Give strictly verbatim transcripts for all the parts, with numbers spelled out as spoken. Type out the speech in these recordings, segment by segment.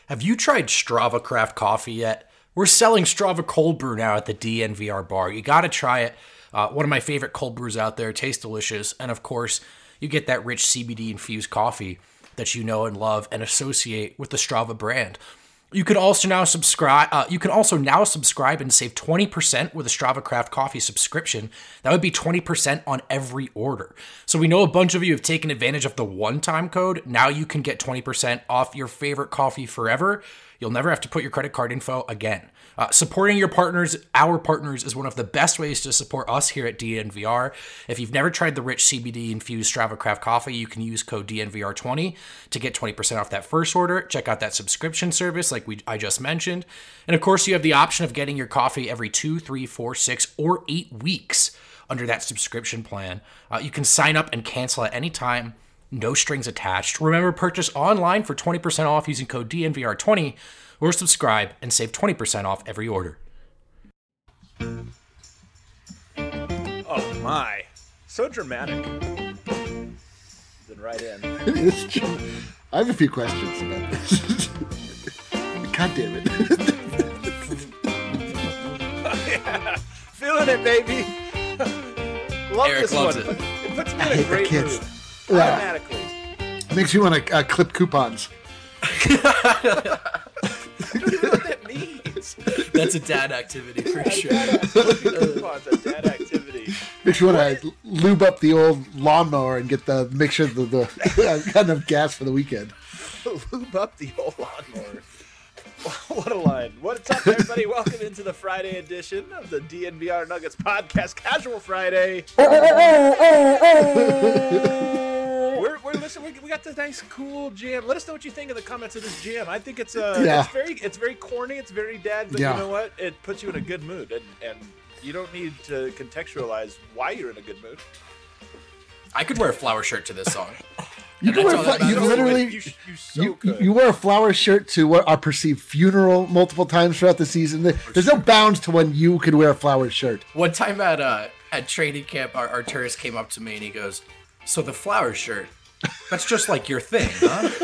Have you tried Strava Craft Coffee yet? We're selling Strava Cold Brew now at the D N V R bar. You got to try it. Uh, one of my favorite cold brews out there. Tastes delicious. And of course, you get that rich C B D-infused coffee that you know and love and associate with the Strava brand. You can also now subscribe. Uh, you can also now subscribe and save twenty percent with a Strava Craft Coffee subscription. That would be twenty percent on every order. So we know a bunch of you have taken advantage of the one-time code. Now you can get twenty percent off your favorite coffee forever. You'll never have to put your credit card info again. Uh, supporting your partners, our partners, is one of the best ways to support us here at D N V R. If you've never tried the rich C B D-infused Strava Craft Coffee, you can use code D N V R twenty to get twenty percent off that first order. Check out that subscription service like we I just mentioned. And of course, you have the option of getting your coffee every two, three, four, six, or eight weeks under that subscription plan. Uh, you can sign up and cancel at any time. No strings attached. Remember, purchase online for twenty percent off using code D N V R twenty or subscribe and save twenty percent off every order. Oh my. So dramatic. Then right in. It's true. I have a few questions about this. God damn it. Oh, yeah. Feeling it, baby. Love Eric this loves one. it. It puts me I in a hate the great kids. mood. Yeah. Automatically. Makes me want to uh, clip coupons. I don't even know what that means. That's a dad activity for A sure. dad activity. Coupons, a dad activity. Makes you want to lube up the old lawnmower and get the make sure the, the got enough gas for the weekend. Lube up the old lawnmower. What a line. What's up, everybody? Welcome into the Friday edition of the D N V R Nuggets podcast, Casual Friday. We're, we're listening. We, we got this nice, cool jam. Let us know what you think in the comments of this jam. I think it's uh, Yeah. it's very, it's very corny. It's very dad, but Yeah. you know what? It puts you in a good mood, and and you don't need to contextualize why you're in a good mood. I could wear a flower shirt to this song. You And can wear that's a all fla- that you matters. literally you, you so you, could. you wear a flower shirt to what our perceived funeral multiple times throughout the season. There's no bounds to when you could wear a flower shirt. One time at uh, at training camp, our, our tourist came up to me and he goes, "So the flower shirt, that's just like your thing, huh?"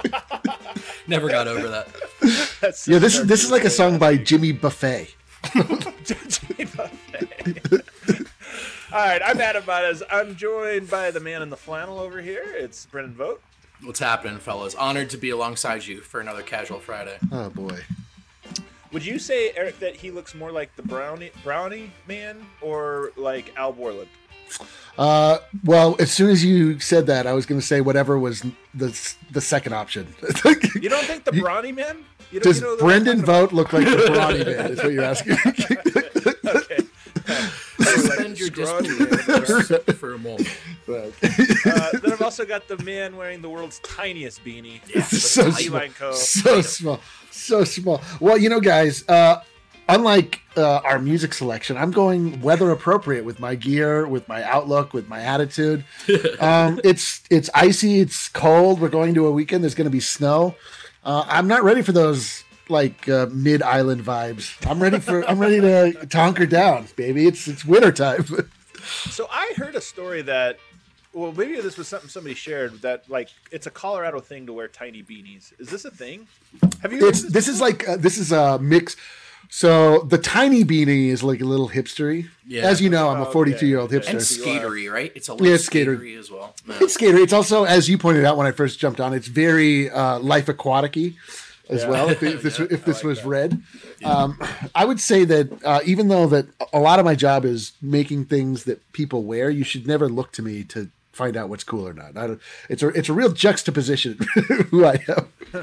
Never got over that. That's Yeah, this is this is like a song by Jimmy Buffet. Jimmy Buffett. All right, I'm Adam Baez. I'm joined by the man in the flannel over here. It's Brendan Vogt. What's happening, fellas? Honored to be alongside you for another Casual Friday. Oh boy. Would you say, Eric, that he looks more like the Brownie Brownie Man or like Al Borland? Uh, well, as soon as you said that, I was going to say whatever was the the second option. You don't think the Brownie Man? You don't, Does you know, Brendan like, Vogt look like the Brownie Man? Is what you're asking? Okay. Suspend your disbelief for a moment. Right. Uh, then I've also got the man wearing the world's tiniest beanie. Yeah, so the small, Line Co. so small, so small. Well, you know, guys, uh, unlike uh, our music selection, I'm going weather appropriate with my gear, with my outlook, with my attitude. Um, it's it's icy, it's cold. We're going to a weekend. There's going to be snow. Uh, I'm not ready for those like uh, mid island vibes. I'm ready for I'm ready to, to hunker down, baby. It's it's winter time. So I heard a story that, well, maybe this was something somebody shared, that like it's a Colorado thing to wear tiny beanies. Is this a thing? Have you? It's this is like uh, this is a mix. So the tiny beanie is like a little hipstery. Yeah. As you know, I'm a Oh, forty-two year old okay. hipster. And skatery, right? It's a little Yeah, it's skater. skatery as well. No. It's skater. It's also, as you pointed out when I first jumped on, it's very uh, life aquatic-y as Yeah. well. If, if this Yeah, if this like was that. red, um, I would say that uh, even though that a lot of my job is making things that people wear, you should never look to me to find out what's cool or not. I don't, it's a it's a real juxtaposition who I am.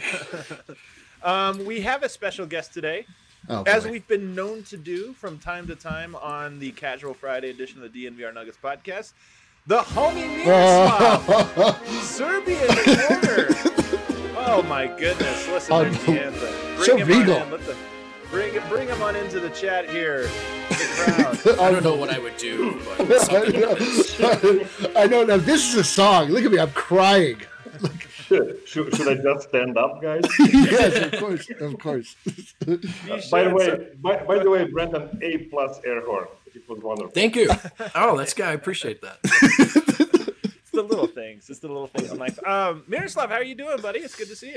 Um, we have a special guest today, Oh, as boy. we've been known to do from time to time on the Casual Friday edition of the D N V R Nuggets podcast. The homie Miroslav, Serbian corner. Oh my goodness! Listen, Oh, there's no. the anthem. Bring So him regal. on in. Let the, bring him, bring him on into the chat here. The crowd. I don't know what I would do, but something like this. I know. Now this is a song. Look at me. I'm crying. Should, should, should I just stand up, guys? Yes, of course, of course. You by the should, way, sir. by, by the way, Brendan, A plus air horn. It was wonderful. Thank you. Oh, that's good. I appreciate that. It's the little things. It's the little things in life. Um, Miroslav, how are you doing, buddy? It's good to see you.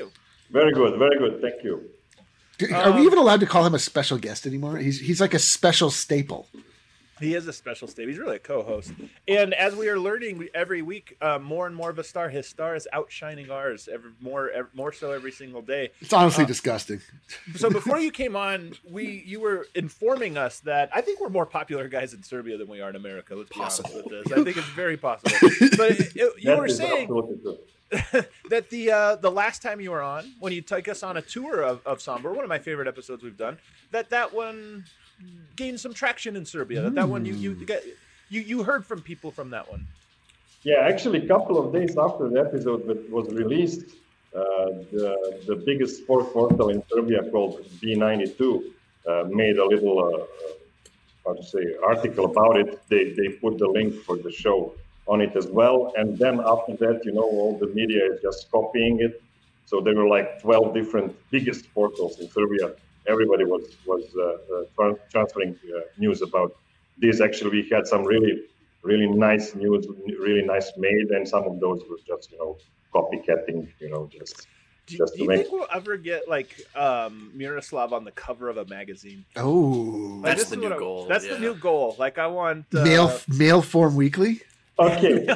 Very good, very good. Thank you. Are we even allowed to call him a special guest anymore? He's he's like a special staple. He is a special state. He's really a co-host. And as we are learning every week, uh, more and more of a star, his star is outshining ours every, more every, more so every single day. It's honestly uh, disgusting. So before you came on, we you were informing us that I think we're more popular guys in Serbia than we are in America. Let's be Possible. honest with this. I think it's very possible. But it, it, you That were is saying absolutely true. that the uh, the last time you were on, when you took us on a tour of, of Sombor, one of my favorite episodes we've done, that that one gained some traction in Serbia. That that one you you got, you you heard from people from that one. Yeah, actually, a couple of days after the episode that was released, uh, the the biggest sport portal in Serbia called B ninety-two uh, made a little uh, how to say article about it. They they put the link for the show on it as well, and then after that, you know, all the media is just copying it. So there were like twelve different biggest portals in Serbia. Everybody was was uh, uh, tra- transferring uh, news about this. Actually, we had some really, really nice news, really nice made, and some of those were just, you know, copycatting, you know, just Do, just do to you make. think we'll ever get like um, Miroslav on the cover of a magazine? Oh, Like, That's this the is new what I- goal, That's yeah. the new goal. Like I want uh, mail mail form weekly. Okay,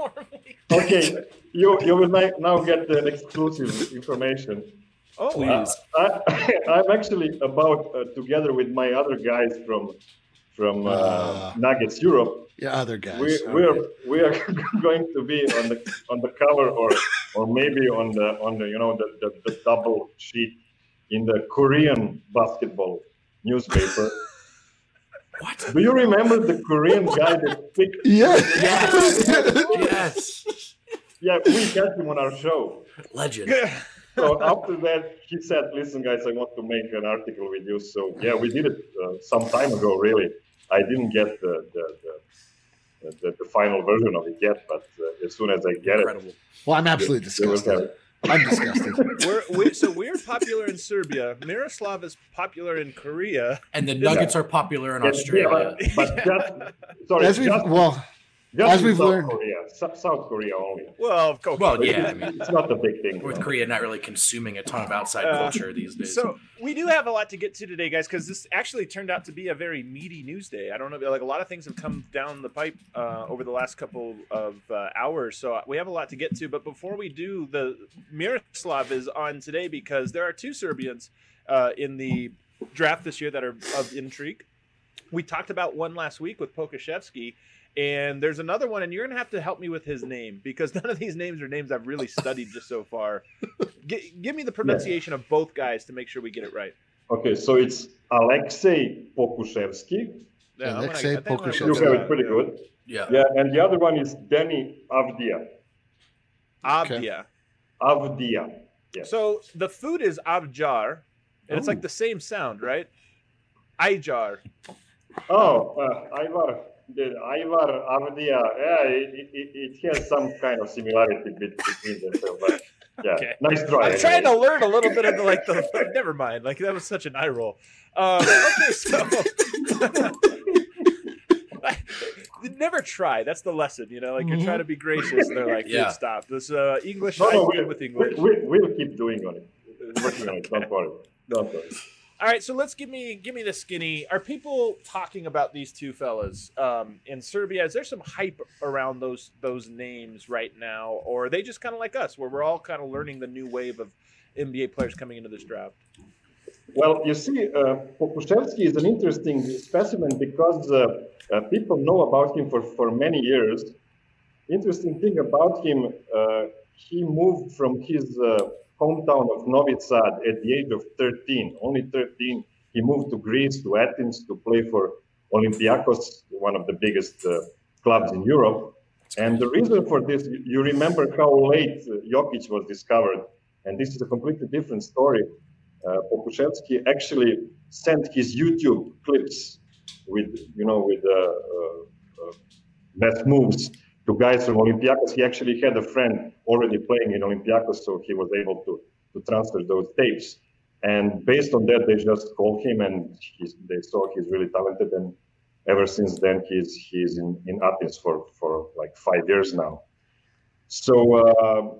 okay, you you will ni- now get the exclusive information. Oh, Please. wow. I, I'm actually about uh, together with my other guys from from uh, Ah. Nuggets Europe. Yeah, other guys. We All we are right. we are going to be on the on the cover or or maybe on the on the you know the, the, the double sheet in the Korean basketball newspaper. What? Do you remember the Korean guy that picked? Yeah. Yes. Yes. Yeah, we had him on our show. Legend. So after that, he said, "Listen, guys, I want to make an article with you." So yeah, we did it uh, some time ago. Really, I didn't get the the, the, the, the final version of it yet, but uh, as soon as I get Incredible. Well, I'm absolutely it, they will have disgusted. it. I'm disgusted. We're, we so we're popular in Serbia. Miroslav is popular in Korea. And the Nuggets are popular in Yeah, Australia. yeah, but, but just, sorry, As we've just, well, just as in we've South learned- Korea, Su- South Korea only. Well, of course. Well, yeah, I mean, It's not a big thing. North you know. Korea not really consuming a ton of outside Uh, culture these days. So we do have a lot to get to today, guys, because this actually turned out to be a very meaty news day. I don't know, like a lot of things have come down the pipe uh, over the last couple of uh, hours, so we have a lot to get to. But before we do, the Miroslav is on today because there are two Serbians uh, in the draft this year that are of intrigue. We talked about one last week with Pokashevsky. And there's another one, and you're gonna have to help me with his name because none of these names are names I've really studied just so far. G- give me the pronunciation of both guys to make sure we get it right. Okay, so it's Alexei Pokushevsky. Yeah, I'm gonna- Alexei I think I'm gonna Pokushevsky. You go have with it pretty that, good. yeah. Yeah, and the other one is Deni Avdia. yeah. Okay. Avdia. Avdia. Yes. So the food is avjar, and it's like the same sound, right? Ijar. Oh, uh, Ivar. The Ivar Avdia. Yeah, it, it, it has some kind of similarity bet- between them. so, But yeah, Okay. nice try. I'm trying to anyway. learn a little bit of the like the. Never mind. Like that was such an eye roll. Um, okay, so never try. That's the lesson, you know. Like you're trying to be gracious, and they're like, Yeah. "Dude, stop." This uh, English. No, no, I'm we, good with English. we, we, we'll keep doing on it. Working on it. Don't worry. Don't worry. All right, so let's give me give me the skinny. Are people talking about these two fellas um, in Serbia? Is there some hype around those those names right now, or are they just kind of like us, where we're all kind of learning the new wave of N B A players coming into this draft? Well, you see, uh, Pokushevsky is an interesting specimen because uh, uh, people know about him for, for many years. Interesting thing about him, uh, he moved from his uh, hometown of Novi Sad at the age of thirteen, only thirteen. He moved to Greece, to Athens, to play for Olympiacos, one of the biggest uh, clubs in Europe. And the reason for this, you- you remember how late uh, Jokic was discovered, and this is a completely different story. Uh, Pokushevsky actually sent his YouTube clips with, you know, with uh, uh, uh, best moves to guys from Olympiacos. He actually had a friend already playing in Olympiacos, so he was able to, to transfer those tapes. And based on that, they just called him, and he's, they saw he's really talented. And ever since then, he's he's in, in Athens for, for like five years now. So uh,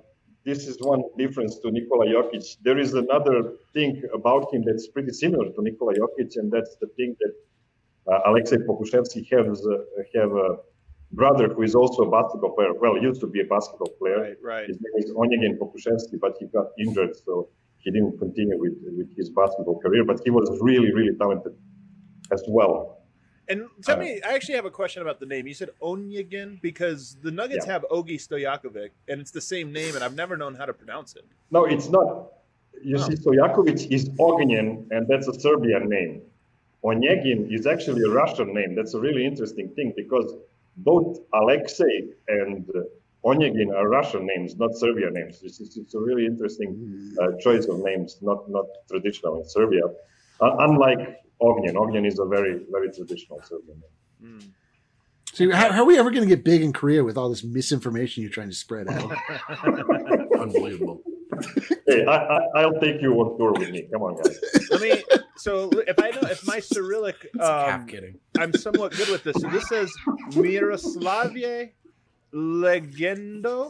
this is one difference to Nikola Jokic. There is another thing about him that's pretty similar to Nikola Jokic, and that's the thing that uh, Alexei Pokusevsky has uh, have a brother who is also a basketball player. Well, used to be a basketball player. Right, right. His name is Onegin Pokusevsky, but he got injured, so he didn't continue with with his basketball career. But he was really, really talented as well. And tell Uh, me, I actually have a question about the name. You said Onegin because the Nuggets Yeah. have Ogi Stojakovic, and it's the same name, and I've never known how to pronounce it. No, it's not. You Oh. see, Stojakovic is Ognjen, and that's a Serbian name. Onegin is actually a Russian name. That's a really interesting thing because both Alexei and uh, Onegin are Russian names, not Serbian names. It's, it's, it's a really interesting uh, choice of names, not not traditional in Serbia. Uh, unlike Ognjen, Ognjen is a very very traditional Serbian name. Mm. So how, how are we ever going to get big in Korea with all this misinformation you're trying to spread out? Unbelievable. Hey, I, I, I'll take you on tour with me. Come on, guys. Let me. So if I know if my Cyrillic, Half um, kidding. I'm somewhat good with this. So this says Miroslavie Legendo.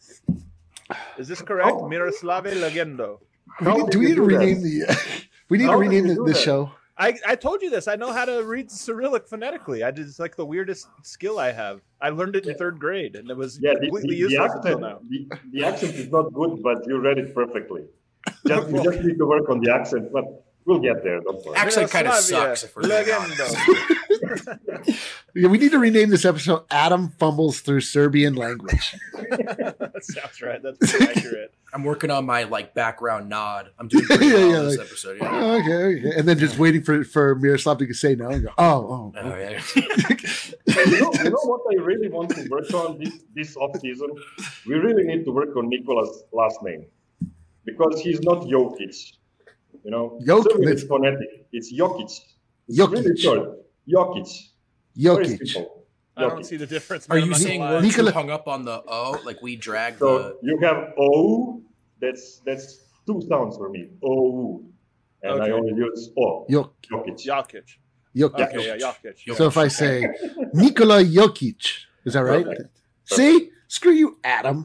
Is this correct? Oh. Miroslavie Legendo. We need, do we need to rename the? We need How to did rename you the, do the that? show. I, I told you this. I know how to read Cyrillic phonetically. I did it's like the weirdest skill I have. I learned it in third grade, and it was Yeah, the, completely the, the useless until accent, now. the, the accent is not good, but you read it perfectly. Just, you just need to work on the accent, but we'll get there. Don't worry. Accent kind of Miroslavia sucks if we're being honest. Legendo. Yeah, we need to rename this episode "Adam Fumbles Through Serbian Language." That sounds right. That's pretty accurate. I'm working on my like background nod. I'm doing pretty Yeah, well yeah, in this like- episode. Yeah. Oh, okay, okay, and then just waiting for for Miroslav to say no and go, "Oh, oh." Oh, yeah. you, know, you know what I really want to work on this, this off season? We really need to work on Nikola's last name because he's not Jokic. You know, Jokic, Serbian that's- is phonetic. It's Jokic. It's Jokic. really short. Jokic. Very Jokic. simple. I don't Jokic. see the difference. Are man. I'm you not gonna saying lie. we're Nikola- too hung up on the O? Like we drag So the. you have O. That's that's two sounds for me. O. And I Okay. only use O. Jok- Jokic. Jokic. Jokic. Okay, yeah, Jokic. So if I say Nikola Jokic, is that right? Perfect. See, screw you, Adam.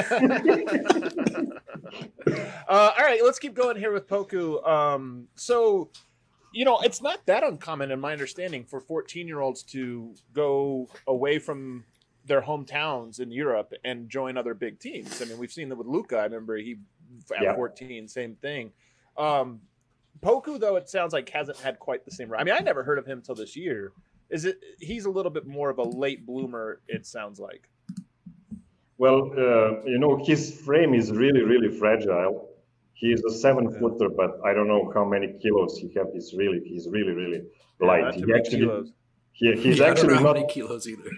Uh, all right, let's keep going here with Poku. Um, so, you know, it's not that uncommon, in my understanding, for fourteen-year-olds to go away from their hometowns in Europe and join other big teams. I mean, we've seen that with Luka. I remember he at Yeah. fourteen, same thing. Um, Poku, though, it sounds like hasn't had quite the same. I mean, I never heard of him till this year. Is it? He's a little bit more of a late bloomer. It sounds like. Well, uh, you know, his frame is really, really fragile. He is a seven footer, but I don't know how many kilos he have. He's really, he's really, really light. Not too he many actually, kilos. he, he's Yeah, I don't actually know how not. many kilos either.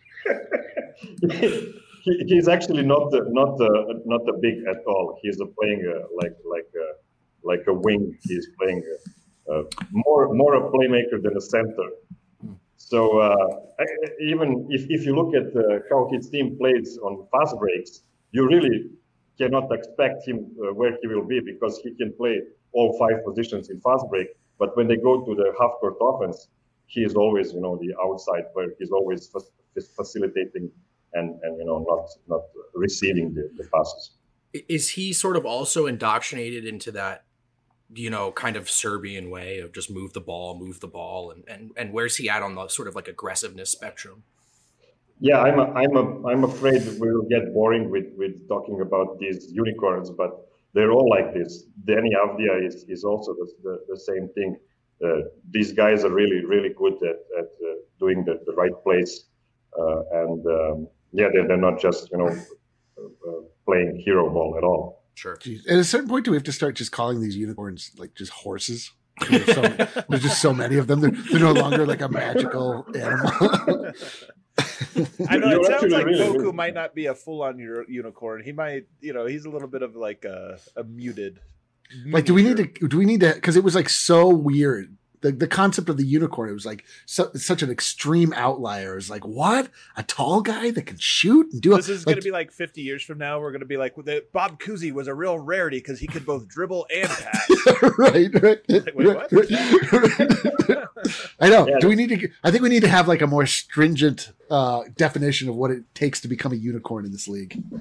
he, he's actually not the, not the, not the big at all. He's a playing uh, like like uh, like a wing. He's playing uh, uh, more more a playmaker than a center. So uh, I- even if, if you look at uh, how his team plays on fast breaks, you really cannot expect him uh, where he will be because he can play all five positions in fast break. But when they go to the half court offense, he is always, you know, the outside where he's always fa- facilitating and, and you know not not receiving the, the passes. Is he sort of also indoctrinated into that, you know, kind of Serbian way of just move the ball, move the ball, and and, and where's he at on the sort of like aggressiveness spectrum? Yeah, I'm a, I'm a, I'm afraid we'll get boring with, with talking about these unicorns, but they're all like this. Danny Avdia is, is also the, the, the same thing. Uh, these guys are really, really good at, at uh, doing the, the right plays. Uh, and um, yeah, they're, they're not just, you know, uh, uh, playing hero ball at all. Sure. Jeez. At a certain point, do we have to start just calling these unicorns like just horses? There's, so, there's just so many of them. They're, they're no longer like a magical animal. I know You're it sounds actually like really Poku good. might not be a full-on ur- unicorn. He might, you know, he's a little bit of like a, a muted. Like, do we need to? Do we need to? Because it was like so weird. The the concept of the unicorn. It was like so, such an extreme outlier. It's like, what? A tall guy that can shoot and do. This is like, going to be like fifty years from now. We're going to be like, the, Bob Cousy was a real rarity because he could both dribble and pass. right, right. Like, wait, what? right. I know. Yeah. Do we need to? I think we need to have like a more stringent uh, definition of what it takes to become a unicorn in this league.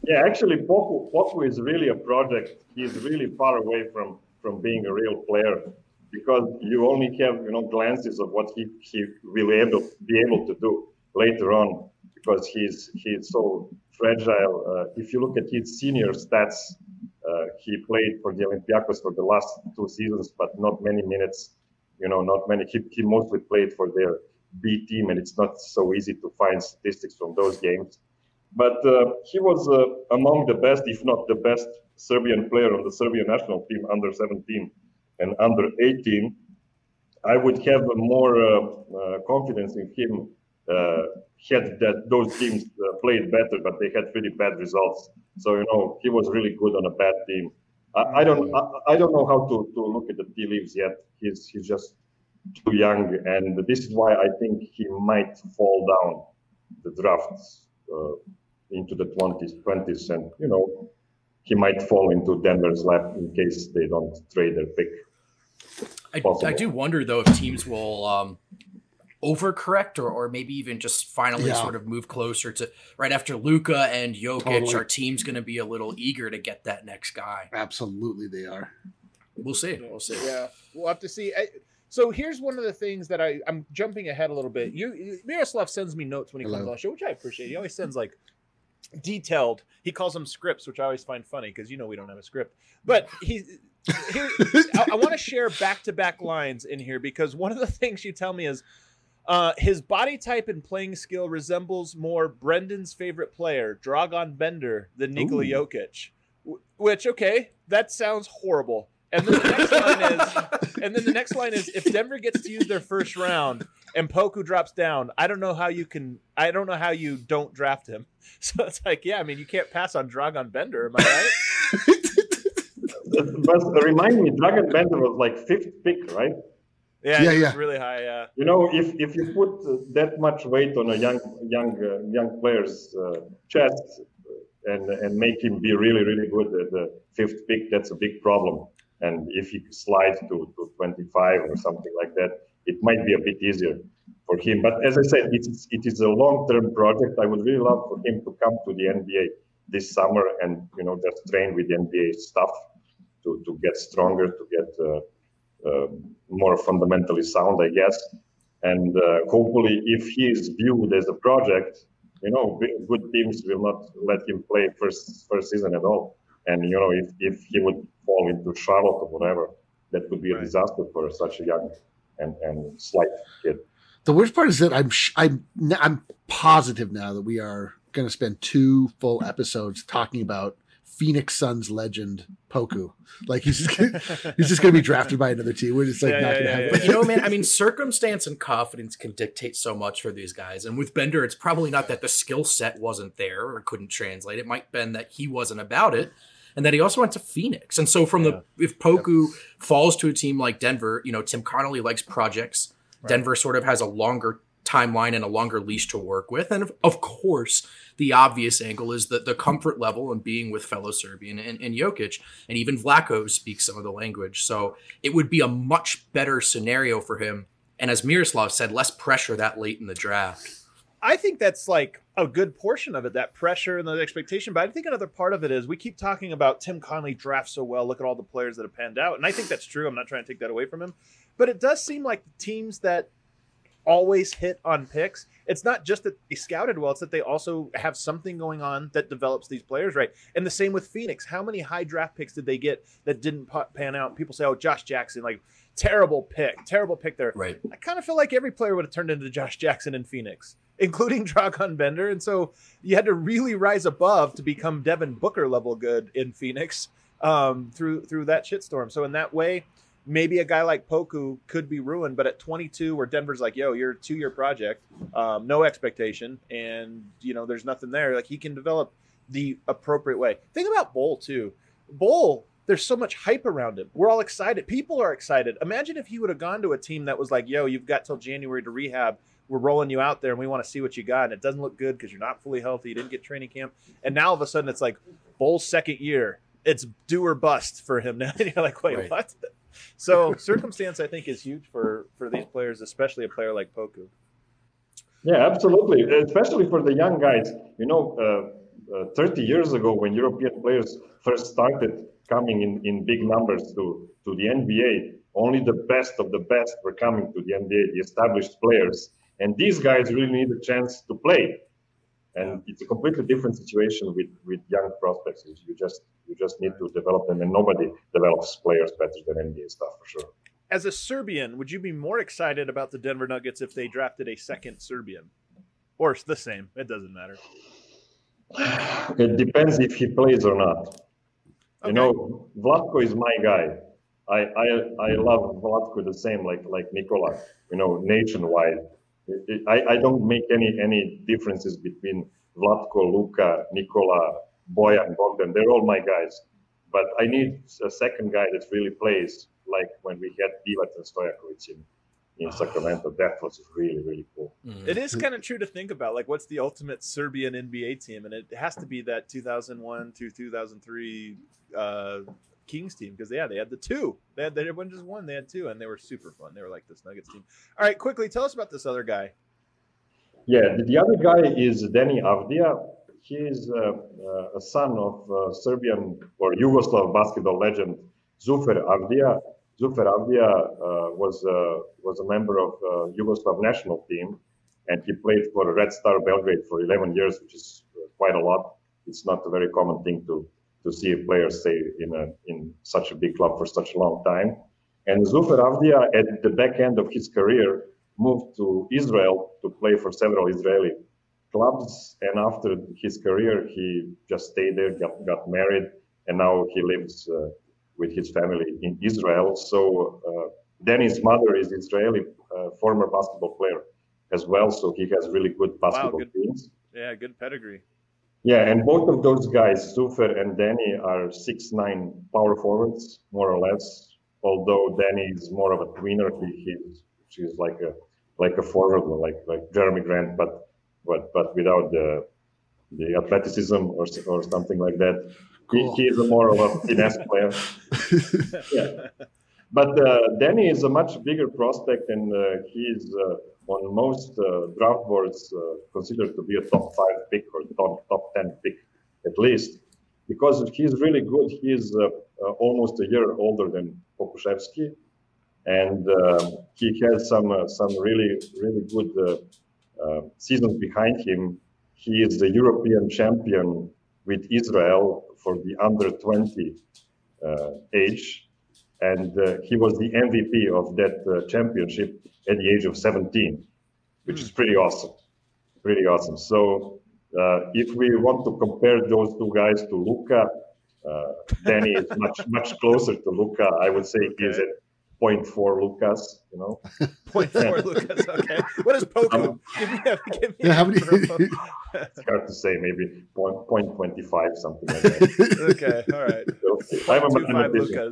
Yeah, actually, Poku, Poku is really a project. He's really far away from, from being a real player because you only have, you know, glances of what he, he will able, be able to do later on because he's he's so fragile. Uh, if you look at his senior stats, uh, he played for the Olympiacos for the last two seasons, but not many minutes. You know, not many. He, he mostly played for their B team, and it's not so easy to find statistics from those games. But uh, he was uh, among the best, if not the best, Serbian player on the Serbian national team under seventeen and under eighteen. I would have more uh, uh, confidence in him uh, had that those teams uh, played better, but they had pretty bad results. So you know he was really good on a bad team. I, I don't I, I don't know how to, to look at the tea leaves yet. He's he's just too young, and this is why I think he might fall down the drafts. Uh, into the twenties, twenties, and you know he might fall into Denver's lap in case they don't trade their pick. I, I do wonder though if teams will um, overcorrect or, or maybe even just finally yeah. sort of move closer to right after Luka and Jokic. Totally. Our team's going to be a little eager to get that next guy. Absolutely, they are. We'll see. We'll see. Yeah, we'll have to see. I, So here's one of the things that I, I'm jumping ahead a little bit. You, you Miroslav sends me notes when he Hello. comes on the show, which I appreciate. He always sends like detailed. He calls them scripts, which I always find funny because you know we don't have a script. But he, here, I, I want to share back-to-back lines in here because one of the things you tell me is uh, his body type and playing skill resembles more Brendan's favorite player, Dragan Bender, than Nikola Ooh. Jokic. Which okay, that sounds horrible. And then the next line is, and then the next line is, if Denver gets to use their first round and Poku drops down, I don't know how you can, I don't know how you don't draft him. So it's like, yeah, I mean, you can't pass on Dragan Bender, am I right? But remind me, Dragan Bender was like fifth pick, right? Yeah, yeah, yeah. really high. Yeah. You know, if if you put that much weight on a young young uh, young player's uh, chest and and make him be really really good at the fifth pick, that's a big problem. And if he slides to, to twenty-five or something like that, it might be a bit easier for him. But as I said, it's, it is a long-term project. I would really love for him to come to the N B A this summer and, you know, just train with the N B A stuff to, to get stronger, to get uh, uh, more fundamentally sound, I guess. And uh, hopefully, if he is viewed as a project, you know, good teams will not let him play first first season at all. And, you know, if, if he would fall into Charlotte or whatever, that would be a right. disaster for such a young and, and slight kid. The worst part is that I'm sh- I'm I'm positive now that we are going to spend two full episodes talking about Phoenix Suns legend Poku. Like he's just gonna, he's just going to be drafted by another team. We're just like yeah, not yeah, going to yeah, have. Yeah. But you know, man, I mean, circumstance and confidence can dictate so much for these guys. And with Bender, it's probably not that the skill set wasn't there or couldn't translate. It might have been that he wasn't about it. And that he also went to Phoenix. And so from yeah. the, if Poku yep. falls to a team like Denver, you know, Tim Connolly likes projects. Right. Denver sort of has a longer timeline and a longer leash to work with. And of, of course, the obvious angle is that the comfort level and being with fellow Serbian and, and Jokic, and even Vlaco speaks some of the language. So it would be a much better scenario for him. And as Miroslav said, less pressure that late in the draft. I think that's like a good portion of it, that pressure and the expectation. But I think another part of it is we keep talking about Tim Connolly drafts so well. Look at all the players that have panned out. And I think that's true. I'm not trying to take that away from him. But it does seem like the teams that always hit on picks, it's not just that they scouted well, it's that they also have something going on that develops these players right. And the same with Phoenix. How many high draft picks did they get that didn't pan out? People say, oh, Josh Jackson, like terrible pick, terrible pick there. Right. I kind of feel like every player would have turned into Josh Jackson in Phoenix, including Dragan Bender. And so you had to really rise above to become Devin Booker level good in Phoenix um, through through that shitstorm. So in that way, maybe a guy like Poku could be ruined. But at twenty-two, where Denver's like, yo, you're a two-year project, um, no expectation, and, you know, there's nothing there. Like, he can develop the appropriate way. Think about Bol, too. Bol, there's so much hype around him. We're all excited. People are excited. Imagine if he would have gone to a team that was like, yo, you've got till January to rehab. We're rolling you out there, and we want to see what you got. And it doesn't look good because you're not fully healthy. You didn't get training camp. And now, all of a sudden, it's like Bol's second year. It's do or bust for him now. And you're like, wait, right. what? So circumstance, I think, is huge for, for these players, especially a player like Poku. Yeah, absolutely. Especially for the young guys. You know, uh, uh, thirty years ago, when European players first started coming in, in big numbers to, to the N B A, only the best of the best were coming to the N B A, the established players. And these guys really need a chance to play. And it's a completely different situation with, with young prospects. You just you just need to develop them, and nobody develops players better than N B A staff, for sure. As a Serbian, would you be more excited about the Denver Nuggets if they drafted a second Serbian? Or the same? It doesn't matter. It depends if he plays or not. Okay. You know, Vlatko is my guy. I, I I love Vlatko the same, like like Nikola. You know, nationwide. It, it, I I don't make any any differences between Vlatko, Luka, Nikola, Bojan, Bogdan. They're all my guys. But I need a second guy that really plays, like when we had Divac and Stojakovic in, in Sacramento. That was really, really cool. Mm. It is kind of true to think about, like, what's the ultimate Serbian N B A team? And it has to be that two thousand one to two thousand three uh, Kings team, because, yeah, they had the two. They had, they wasn't just one, they had two, and they were super fun. They were like this Nuggets team. All right, quickly, tell us about this other guy. Yeah, the, the other guy is Deni Avdija. He is uh, uh, a son of uh, Serbian or Yugoslav basketball legend Zufer Avdija. Zufer Avdija uh, was uh, was a member of uh, Yugoslav national team, and he played for Red Star Belgrade for eleven years, which is quite a lot. It's not a very common thing to to see a player stay in a in such a big club for such a long time. And Zufer Avdija, at the back end of his career, moved to Israel to play for several Israeli clubs, and after his career, he just stayed there, got, got married, and now he lives uh, with his family in Israel. So uh, Deni's mother is Israeli, uh, former basketball player as well, so he has really good basketball wow, good, teams. Yeah, good pedigree. Yeah, and both of those guys, Zufer and Deni, are six nine power forwards, more or less. Although Deni is more of a tweener, he, he's she's like a like a forward, like like Jeremy Grant, but but but without the the athleticism or or something like that. Cool. He, he is a more of a finesse player. Yeah, but uh, Deni is a much bigger prospect, and uh, he is uh, on most uh, draft boards uh, considered to be a top five pick or top top ten pick at least, because he is really good. He is uh, uh, almost a year older than Pokusevski, and uh, he has some uh, some really really good uh, uh, seasons behind him. He is the European champion with Israel for the under twenty uh, age, and uh, he was the M V P of that uh, championship at the age of seventeen, which is pretty awesome, pretty awesome. So uh, if we want to compare those two guys to Luka, uh, Deni is much much closer to Luka. I would say okay. He is at zero point four Lucas, you know. zero point four Lucas, okay. What is Poku? Um, give me a, give me yeah, how many? It's hard to say, maybe zero point two five, something like that. Okay, all right. So, I'm a mathematician.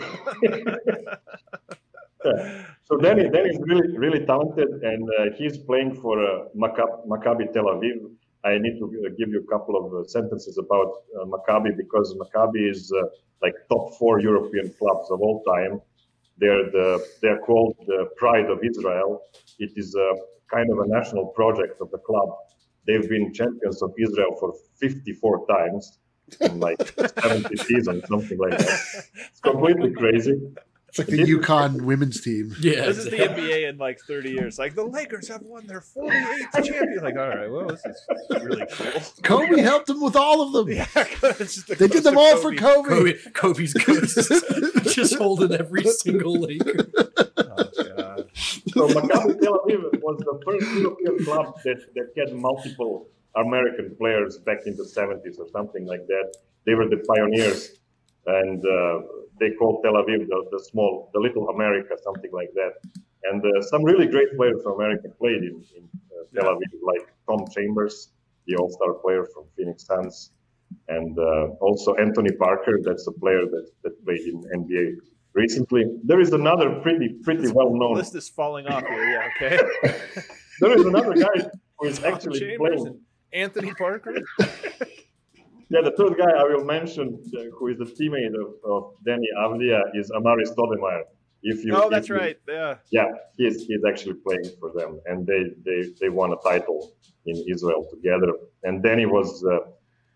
Yeah. So Deni, Deni is really, really talented, and uh, he's playing for uh, Maccabi, Maccabi Tel Aviv. I need to uh, give you a couple of uh, sentences about uh, Maccabi, because Maccabi is uh, like top four European clubs of all time. They're the they're called the pride of Israel. It is a kind of a national project of the club. They've been champions of Israel for fifty-four times in like seventy seasons, something like that. It's completely crazy. It's like the UConn women's team. Yeah, this is the N B A in like thirty years. Like the Lakers have won their forty-eighth champion. Like, all right, well, this is really cool. Kobe helped them with all of them. Yeah, the they did them all Kobe. for Kobe. Kobe Kobe's ghost just holding every single Laker. Oh God! So Maccabi Tel Aviv was the first European club that, that had multiple American players back in the seventies or something like that. They were the pioneers, and uh, they called Tel Aviv the, the small, the little America, something like that. And uh, some really great players from America played in, in uh, Tel Aviv, like Tom Chambers, the all-star player from Phoenix Suns, and uh, also Anthony Parker, that's a player that, that played in N B A recently. There is another pretty pretty well-known... The list is falling off here, yeah, okay. There is another guy who is actually Chambers playing... and Anthony Parker? Yeah, the third guy I will mention, uh, who is the teammate of, of Deni Avdija, is Amari Stoudemire. If you, oh, that's if you, right. Yeah. Yeah, he's he's actually playing for them, and they they, they won a title in Israel together. And Deni was uh,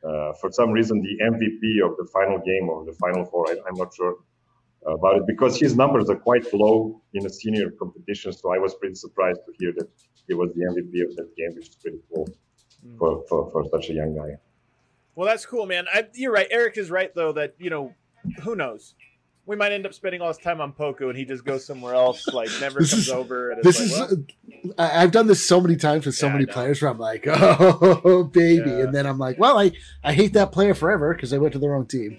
uh, for some reason, the M V P of the final game of the Final Four. I, I'm not sure about it because his numbers are quite low in a senior competition. So I was pretty surprised to hear that he was the M V P of that game, which is pretty cool mm. for, for, for such a young guy. Well, that's cool, man. I, you're right. Eric is right, though, that, you know, who knows? We might end up spending all this time on Poku and he just goes somewhere else, like never this comes is, over. And this it's is, like, well, I've done this so many times with so yeah, many players where I'm like, oh, baby. Yeah. And then I'm like, well, I, I hate that player forever because they went to the wrong team.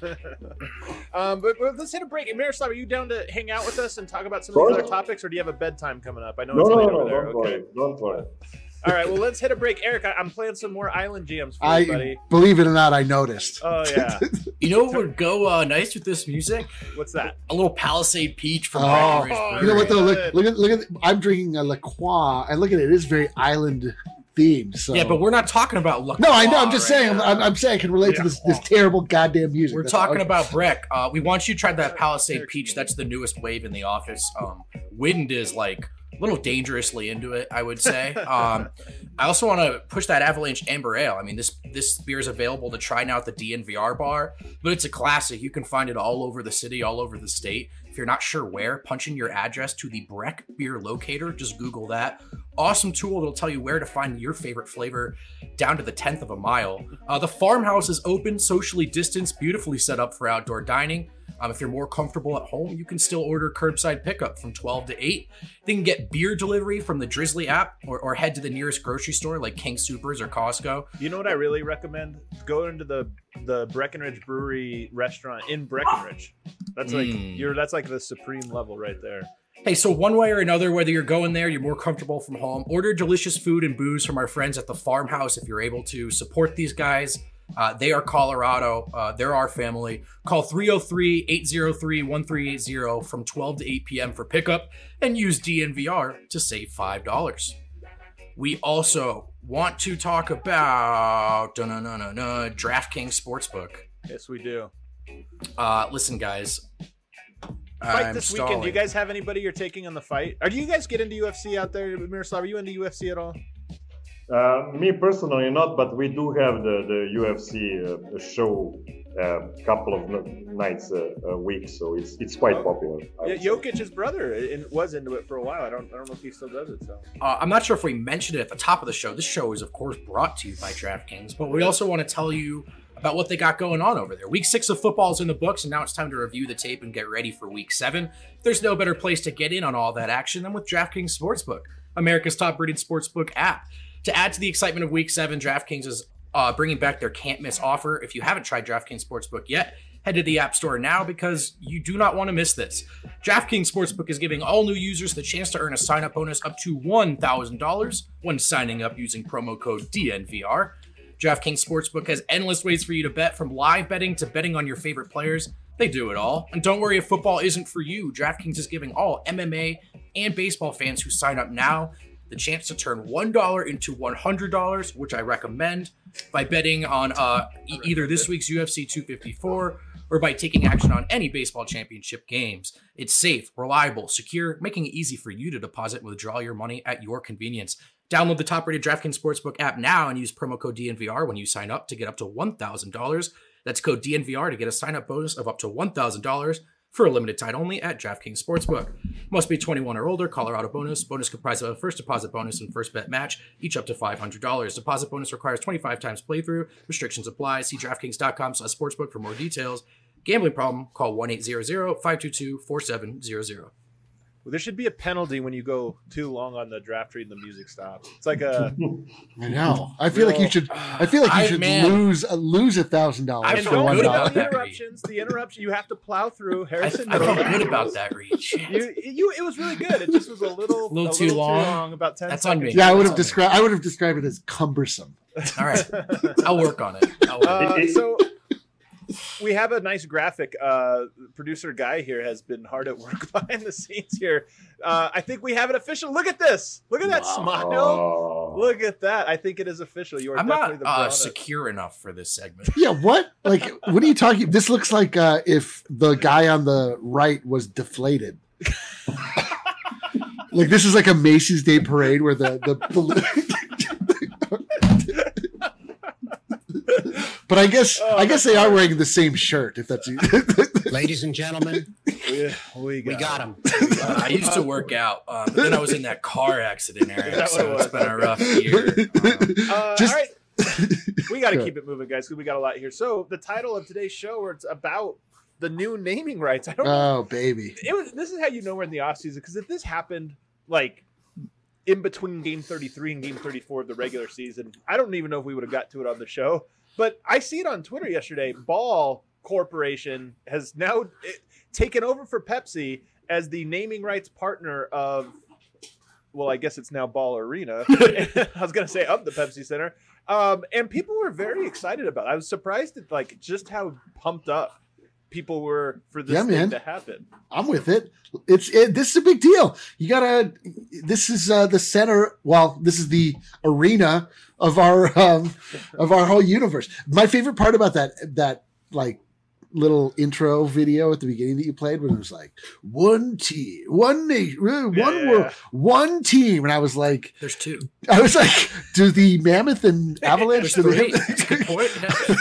um, but, but let's hit a break. Miroslav, are you down to hang out with us and talk about some of these other topics, or do you have a bedtime coming up? I know no, it's no, late no, over there. Don't okay. worry. Don't worry. All right, well, let's hit a break. Eric, I, I'm playing some more Island Jams for I, you, buddy. Believe it or not, I noticed. Oh, yeah. You know what would go uh, nice with this music? What's that? A little Palisade Peach from Oh, Breckenridge you know what, though? Look, Good. look at, look at, I'm drinking a La Croix, and look at it. It is very island themed. So. Yeah, but we're not talking about La No, I know. I'm Croix just right saying. now. I'm, I'm saying I can relate Yeah. to this, this terrible goddamn music. We're That's talking all- about Breck. Uh, we want you to try that Palisade Eric, Peach. That's the newest wave in the office. Um, Wind is like a little dangerously into it, I would say. Um, I also want to push that Avalanche Amber Ale. I mean, this this beer is available to try now at the D N V R bar, but it's a classic. You can find it all over the city, all over the state. If you're not sure where, punch in your address to the Breck Beer Locator. Just Google that. Awesome tool that'll tell you where to find your favorite flavor down to the tenth of a mile. Uh, the farmhouse is open, socially distanced, beautifully set up for outdoor dining. Um, if you're more comfortable at home, you can still order curbside pickup from twelve to eight. They can get beer delivery from the Drizzly app or, or head to the nearest grocery store like King Soopers or Costco. You know what I really recommend? Go into the the Breckenridge Brewery restaurant in Breckenridge. That's like Mm. you're that's like the supreme level right there. Hey, so one way or another, whether you're going there, you're more comfortable from home, order delicious food and booze from our friends at the farmhouse if you're able to. Support these guys. Uh, they are Colorado. Uh, they're our family. Call three oh three, eight oh three, one three eight oh from twelve to eight p.m. for pickup and use D N V R to save five dollars. We also want to talk about DraftKings Sportsbook. Yes, we do. Uh, listen, guys. Fight I'm this stalling. weekend. Do you guys have anybody you're taking on the fight? Are do you guys get into U F C out there, Miroslav? Are you into U F C at all? Uh, me personally, not, but we do have the, the U F C uh, show a uh, couple of n- nights a, a week, so it's it's quite popular. I Yeah, would say. Jokic's brother in, was into it for a while. I don't I don't know if he still does it. So Uh, I'm not sure if we mentioned it at the top of the show. This show is, of course, brought to you by DraftKings, but we also want to tell you about what they got going on over there. Week six of football is in the books, and now it's time to review the tape and get ready for week seven. There's no better place to get in on all that action than with DraftKings Sportsbook, America's top-rated sportsbook app. To add to the excitement of week seven, DraftKings is uh, bringing back their can't-miss offer. If you haven't tried DraftKings Sportsbook yet, head to the App Store now because you do not want to miss this. DraftKings Sportsbook is giving all new users the chance to earn a sign-up bonus up to one thousand dollars when signing up using promo code D N V R. DraftKings Sportsbook has endless ways for you to bet, from live betting to betting on your favorite players. They do it all. And don't worry if football isn't for you. DraftKings is giving all M M A and baseball fans who sign up now the chance to turn one dollar into one hundred dollars, which I recommend, by betting on uh, e- either this week's U F C two fifty-four or by taking action on any baseball championship games. It's safe, reliable, secure, making it easy for you to deposit and withdraw your money at your convenience. Download the top-rated DraftKings Sportsbook app now and use promo code D N V R when you sign up to get up to one thousand dollars. That's code D N V R to get a sign-up bonus of up to one thousand dollars for a limited time only at DraftKings Sportsbook. Must be twenty-one or older. Colorado bonus. Bonus comprised of a first deposit bonus and first bet match, each up to five hundred dollars. Deposit bonus requires twenty-five times playthrough. Restrictions apply. See DraftKings.com slash sportsbook for more details. Gambling problem? Call one eight hundred, five two two, four seven zero zero. well, there should be a penalty when you go too long on the draft read and the music stops. It's like a I know. I feel like you should. I feel like you I- should man. lose uh, lose a thousand I dollars and feel for don't one good do about dollar. the that. interruptions. The interruption you have to plow through. I, Harrison, I felt knows. good about that reach. You, you, it was really good. It just was a little, A little a too little long. Too long about ten That's on seconds. me. Yeah, I would have That's described. I would have described it as cumbersome. All right. I'll work on it. I'll work. Uh, so we have a nice graphic. Uh, producer Guy here has been hard at work behind the scenes here. Uh, I think we have it official. Look at this. Look at that smile. Oh. Look at that. I think it is official. You are I'm definitely not the uh, brown- secure enough for this segment. Yeah, what? Like, what are you talking? This looks like uh, if the guy on the right was deflated. Like, this is like a Macy's Day Parade where the the. But I guess Oh, I guess that's they are hard. wearing the same shirt. If that's Ladies and gentlemen, we, we we got him. him. Uh, I used to work out, um, but then I was in that car accident, Eric. Is that what So it it's was? been a rough year. Um, Uh, Just- all right. We got to Good. keep it moving, guys, because we got a lot here. So the title of today's show, where it's about the new naming rights. I don't know. Oh baby. It was. This is how you know we're in the off season, because if this happened like in between Game thirty-three and Game thirty-four of the regular season, I don't even know if we would have got to it on the show. But I see it on Twitter yesterday. Ball Corporation has now it, taken over for Pepsi as the naming rights partner of. Well, I guess it's now Ball Arena. I was going to say of the Pepsi Center. Um, and people were very excited about it. I was surprised at like just how pumped up people were for this Yeah, thing man. to happen. I'm with it. It's it, this is a big deal. You gotta. This is uh, the center. Well, this is the arena of our um, of our whole universe. My favorite part about that that like little intro video at the beginning that you played when it was like one team, one nation, one Yeah. world, one team, and I was like, there's two. I was like, do the Mammoth and Avalanche? There's do they three. That's a good point.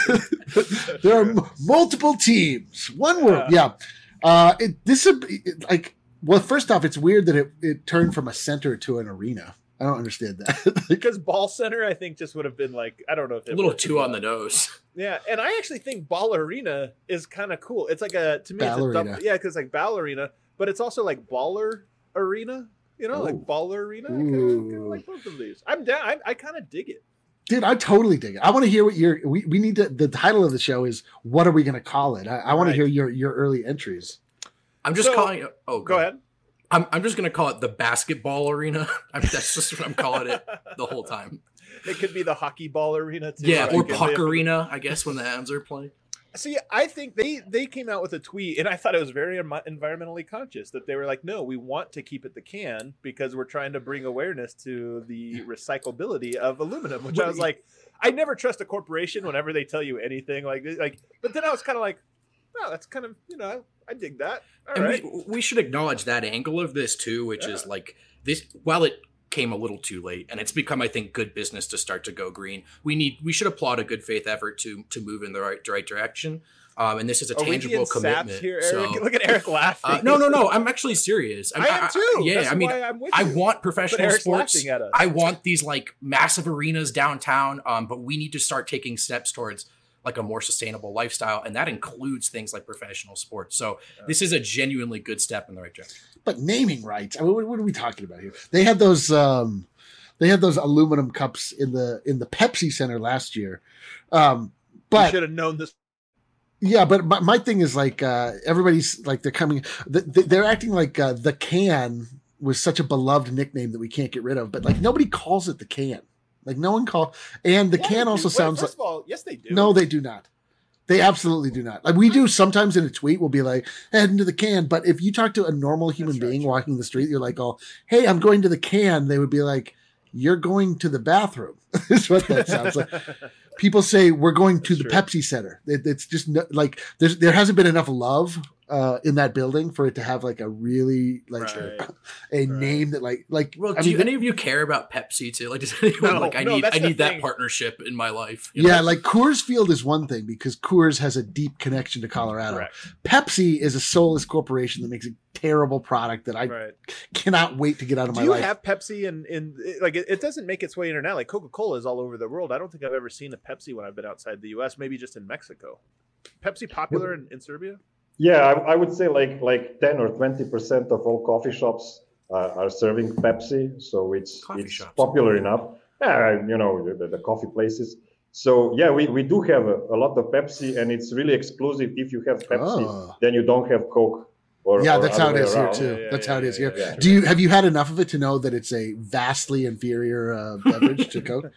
Yeah. there are m- multiple teams, one world. Yeah, uh, it, this is it, like. Well, first off, it's weird that it, it turned from a center to an arena. I don't understand that. Because Ball Center, I think, just would have been like, I don't know if it A little worked too as on well. the nose. Yeah, and I actually think Ball Arena is kind of cool. It's like a to me, it's a Ballerina. double, yeah, because like ballerina, but it's also like baller arena. You know, Oh. like baller arena. I kind of Ooh. like both of these. I'm down. I, I kind of dig it. Dude, I totally dig it. I want to hear what your we, we need to the title of the show is what are we going to call it? I, I want Right. to hear your your early entries. I'm just So- calling it. Oh, Go ahead. I'm, I'm just going to call it the basketball arena. I mean, that's just what I'm calling it the whole time. It could be the hockey ball arena too. Yeah, Like, or if puck they- arena, I guess, when the Avs are playing. See, I think they they came out with a tweet, and I thought it was very em- environmentally conscious. That they were like, "No, we want to keep it the can because we're trying to bring awareness to the recyclability of aluminum." Which I was like, I never trust a corporation whenever they tell you anything like this. Like, but then I was kind of like, "No, that's kind of you know, I, I dig that." All And right, we, we should acknowledge that angle of this too, which is Yeah. like this. While it came a little too late, and it's become, I think, good business to start to go green. We need, we should applaud a good faith effort to to move in the right right direction. Um, and this is a Are we tangible being saps commitment. here, Eric? So, Look at Eric laughing. uh, no, no, no. I'm actually serious. I am too. yeah, That's I mean, why I'm with I you. want professional Eric's sports. laughing at us. I want these like massive arenas downtown. Um, but we need to start taking steps towards like a more sustainable lifestyle, and that includes things like professional sports. So this is a genuinely good step in the right direction. But naming rights. I mean, what, what are we talking about here? They had those um they had those aluminum cups in the in the Pepsi Center last year. Um You but should have known this. yeah, but my, my thing is like uh everybody's like they're coming th- th- they're acting like uh, the can was such a beloved nickname that we can't get rid of, but like nobody calls it the can. Like no one call and the Yeah, can they also do. Wait, sounds like first of all, yes, they do. no, they do not. They absolutely do not. Like we do sometimes in a tweet, we'll be like, heading to the can. But if you talk to a normal human That's right, being sure. walking the street, you're like, oh, hey, I'm going to the can. They would be like, you're going to the bathroom. Is what that sounds like. People say we're going to That's the true. Pepsi Center. It, it's just no, like there's there hasn't been enough love uh, in that building for it to have like a really like Right. a Right. name that like like Well, I do mean, you, any of you care about Pepsi too? Like, does anyone No, like? I no, need, that's I the need that thing. partnership in my life. you know? yeah, like Coors Field is one thing because Coors has a deep connection to Colorado. Correct. Pepsi is a soulless corporation that makes a terrible product that I Right. cannot wait to get out of Do my you life. have Pepsi in in like it, it doesn't make its way internationally? Like Coca Cola is all over the world. I don't think I've ever seen a Pepsi when I've been outside the U S. Maybe just in Mexico. Pepsi popular in, in Serbia? Yeah, I, I would say like like ten or twenty percent of all coffee shops uh, are serving Pepsi, so it's Coffee it's shops. popular enough. Yeah, you know the, the coffee places. So yeah, we, we do have a, a lot of Pepsi, and it's really exclusive. If you have Pepsi, Oh. then you don't have Coke. Or, Yeah, or that's how other it way is here around. too. Yeah, yeah, That's yeah, how it is yeah, here. yeah. Do you have you had enough of it to know that it's a vastly inferior uh, beverage to Coke?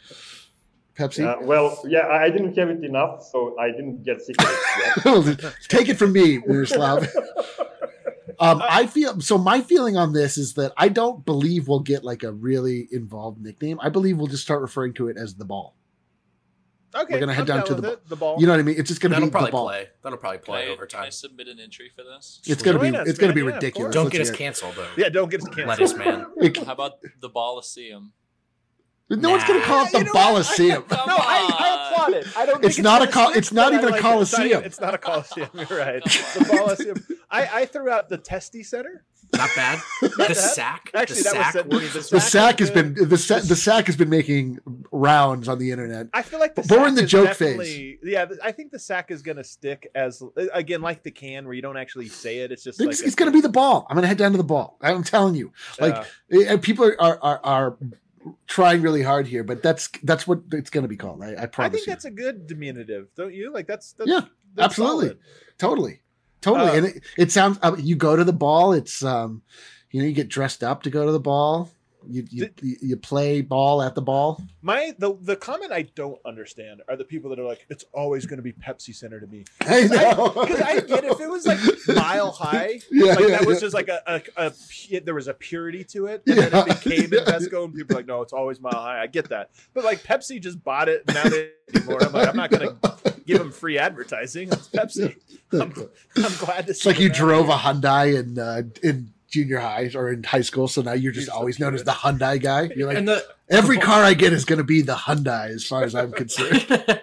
Pepsi. Uh, well, yeah, I I didn't have it enough, so I didn't get sick of it yet. Take it from me, Miroslav. Um, I feel so. My feeling on this is that I don't believe we'll get like a really involved nickname. I believe we'll just start referring to it as the ball. Okay, We're gonna head I'm down down to with the it, the ball. You know what I mean? It's just going to That'll be probably the ball. play. That'll probably Can play I, over can I time. submit an entry for this? It's going to be. Join us, It's going to man. be Yeah, of ridiculous. course. Don't Let's get us hear it. canceled though. yeah, don't get us canceled. Lettuce man. How about the Boliseum? No Nah. one's going to call it the You know what? Coliseum. No, I, I applaud it. I don't. Think It's not a gonna col- stick, it's not but I even a like it. Coliseum. It's not, it's not a Coliseum. You're right. The Coliseum. I, I threw out the Testy Center. Not bad. Not the bad. sack. Actually, the that was sack said- works the as The Sack sack is has been good. the sack, the sack has been making rounds on the internet. I feel like the But we're sack in the is joke definitely- Yeah, I think the sack is going to stick as again like the can where you don't actually say it. It's just It's, like it's going to be the ball. I'm going to head down to the ball. I'm telling you. Like Yeah. eh, people are, are are trying really hard here, but that's that's what it's going to be called. I, I I promise think you. that's a good diminutive, don't you? Like that's, that's Yeah, that's absolutely. solid. Totally, totally. Uh, and it, it sounds. Uh, you go to the ball. It's um, you know, you get dressed up to go to the ball. You you, you you play ball at the ball. My the the comment I don't understand are the people that are like, it's always going to be Pepsi Center to me. I know. Because I, I get if it was like Mile High, Yeah, like yeah, that was yeah. just like a, a, a pu- there was a purity to it, and then Yeah, it became yeah. Invesco, and people are like, no, it's always Mile High. I get that, but like Pepsi just bought it, and now they anymore. I'm like, I'm not going to give them free advertising. It's Pepsi. I'm, I'm glad to It's see. like you them drove a happy. Hyundai in uh, in junior high or in high school, so now you're just You're so always known as cute. the Hyundai guy. You're like, and the every car I get is going to be the Hyundai, as far as I'm concerned.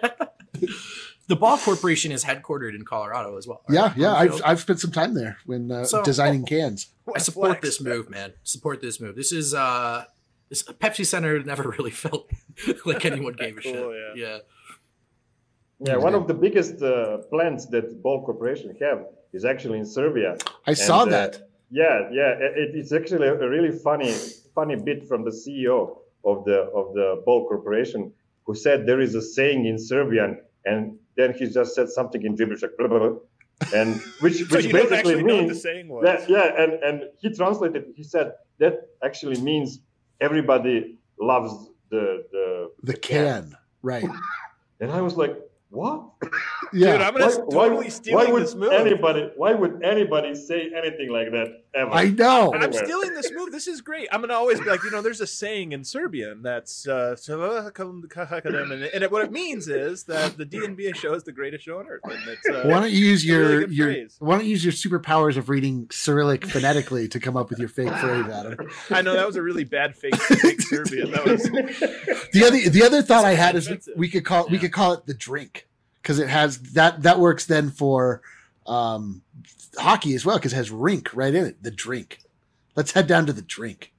the Ball Corporation is headquartered in Colorado as well. Yeah, right? yeah. On I've field. I've spent some time there when uh, So- designing cans. I support this move, man. Support this move. This is uh, this Pepsi Center never really felt like anyone gave a Cool, shit. yeah. Yeah. Yeah, one of the biggest uh, plants that Ball Corporation have is actually in Serbia. I saw And, uh, that. Yeah, yeah, it, it's actually a really funny, funny bit from the C E O of the of the Ball Corporation, who said there is a saying in Serbian, and then he just said something in gibberish, like blah, blah, blah, and which So which you don't basically actually know what the means saying was. yeah, yeah, and and he translated. He said that actually means everybody loves the the The can, right? and I was like, what? Yeah. Dude, I'm gonna Why- totally why, stealing why would this move. anybody? Why would anybody say anything like that ever? I know. I'm Anywhere. stealing this move. This is great. I'm gonna always be like, you know, there's a saying in Serbian that's uh, and, and it, what it means is that the D N B A show is the greatest show on earth. And it's, uh, Why don't you use it's a really your good your phrase. Why don't you use your superpowers of reading Cyrillic phonetically to come up with your fake phrase, Adam? I know that was a really bad fake, fake Serbian. That was The other the other thought I had is offensive. we could call we could call it the drink because it has that that works then for um, hockey as well because it has rink right in it. The drink. Let's head down to the drink.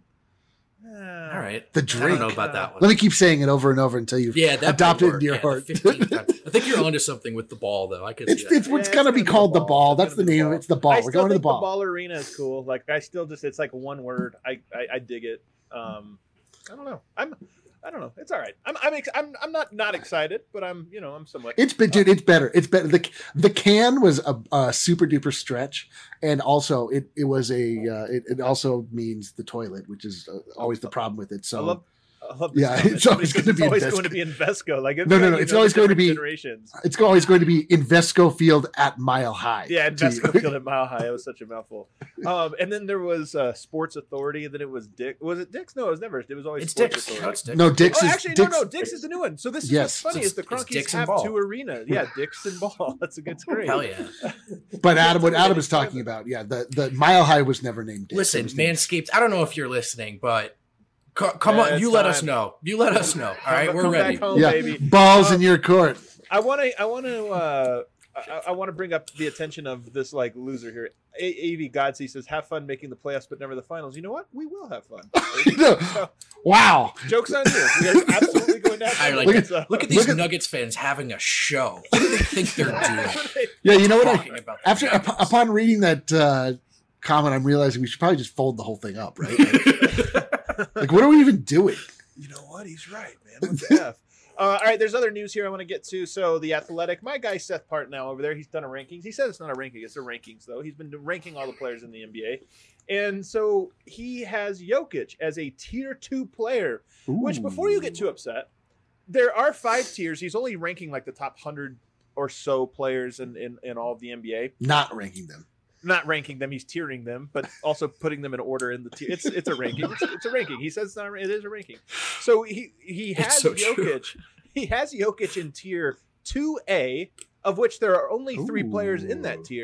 All right. The I drink. don't know about that one. Let me keep saying it over and over until you've yeah, that adopted might it into your work. Yeah, heart. the fifteenth time. I think you're onto something with the ball, though. I could It's see that. it's what's Yeah, gonna it's be gonna be called the the ball. ball. It's That's the gonna be the name. ball. It's the ball. I We're still going to the think ball. the ball arena is cool. Like I still just it's like one word. I I, I dig it. Um, I don't know. I'm I don't know. It's all right. I'm I'm ex- I'm I'm not not excited, but I'm you know I'm somewhat. It's been, dude. It's better. It's better. The the can was a, a super duper stretch, and also it it was a uh, it, it also means the toilet, which is uh, always the problem with it. So I love. I love this Yeah, comment. it's always Somebody gonna says be it's always Invesco. going to be Invesco. Like it's No, no, like, no, you it's know, always the going to different be- generations. it's always going to be Invesco Field at Mile High. Yeah, to you. Invesco Field at Mile High. It was such a mouthful. Um, and then there was uh, Sports Authority, and then it was Dick. Was it Dick's? No, it was never. It was always It's Sports Dick's. Authority. No, it's Dick's. No, Dick's Oh, is actually, Dick's, no, no. Dick's is the new one. So this is Yes. what's funny It's- is the it's Cronkies Dick's and have Ball. two arenas. Yeah, Dick's and Ball. That's a good great. Hell yeah. But Adam, what It's Adam is really talking about, yeah, the the Mile High was never named Dick's. Listen, It was named- Manscaped, I don't know if you're listening, but co- come Yeah, on, it's you let us time. know. You let us know. All right, Come- we're come ready. Back home, yeah, baby. balls Um, in your court. I want to. I want to. Uh, I, I want to bring up the attention of this like loser here. A- A V Godsey says, "Have fun making the playoffs, but never the finals." You know what? We will have fun. So, Wow. jokes on you. We are absolutely going to have I fun. like Look it. at- So- Look at these look at- Nuggets fans having a show. What do they think they're doing? Yeah, you know what? Talking I, about the after Nuggets. up, upon reading that uh, comment, I'm realizing we should probably just fold the whole thing up, right? Like, like, what are we even doing? You know what? He's right, man. What the F? Uh, all right, there's other news here I want to get to. So the Athletic, my guy Seth Partnow over there, he's done a rankings. He says it's not a ranking, it's a rankings though. He's been ranking all the players in the N B A, and so he has Jokic as a tier two player. Which, before you get too upset, there are five tiers. He's only ranking like the top hundred or so players in in, in all of the N B A. Not ranking them. Not ranking them, he's tiering them, but also putting them in order in the tier. It's it's a ranking. It's, it's a ranking. He says it's not, it is a ranking. So he he It's has so true. Jokic. He has Jokic in tier two A, of which there are only three Ooh. players in that tier,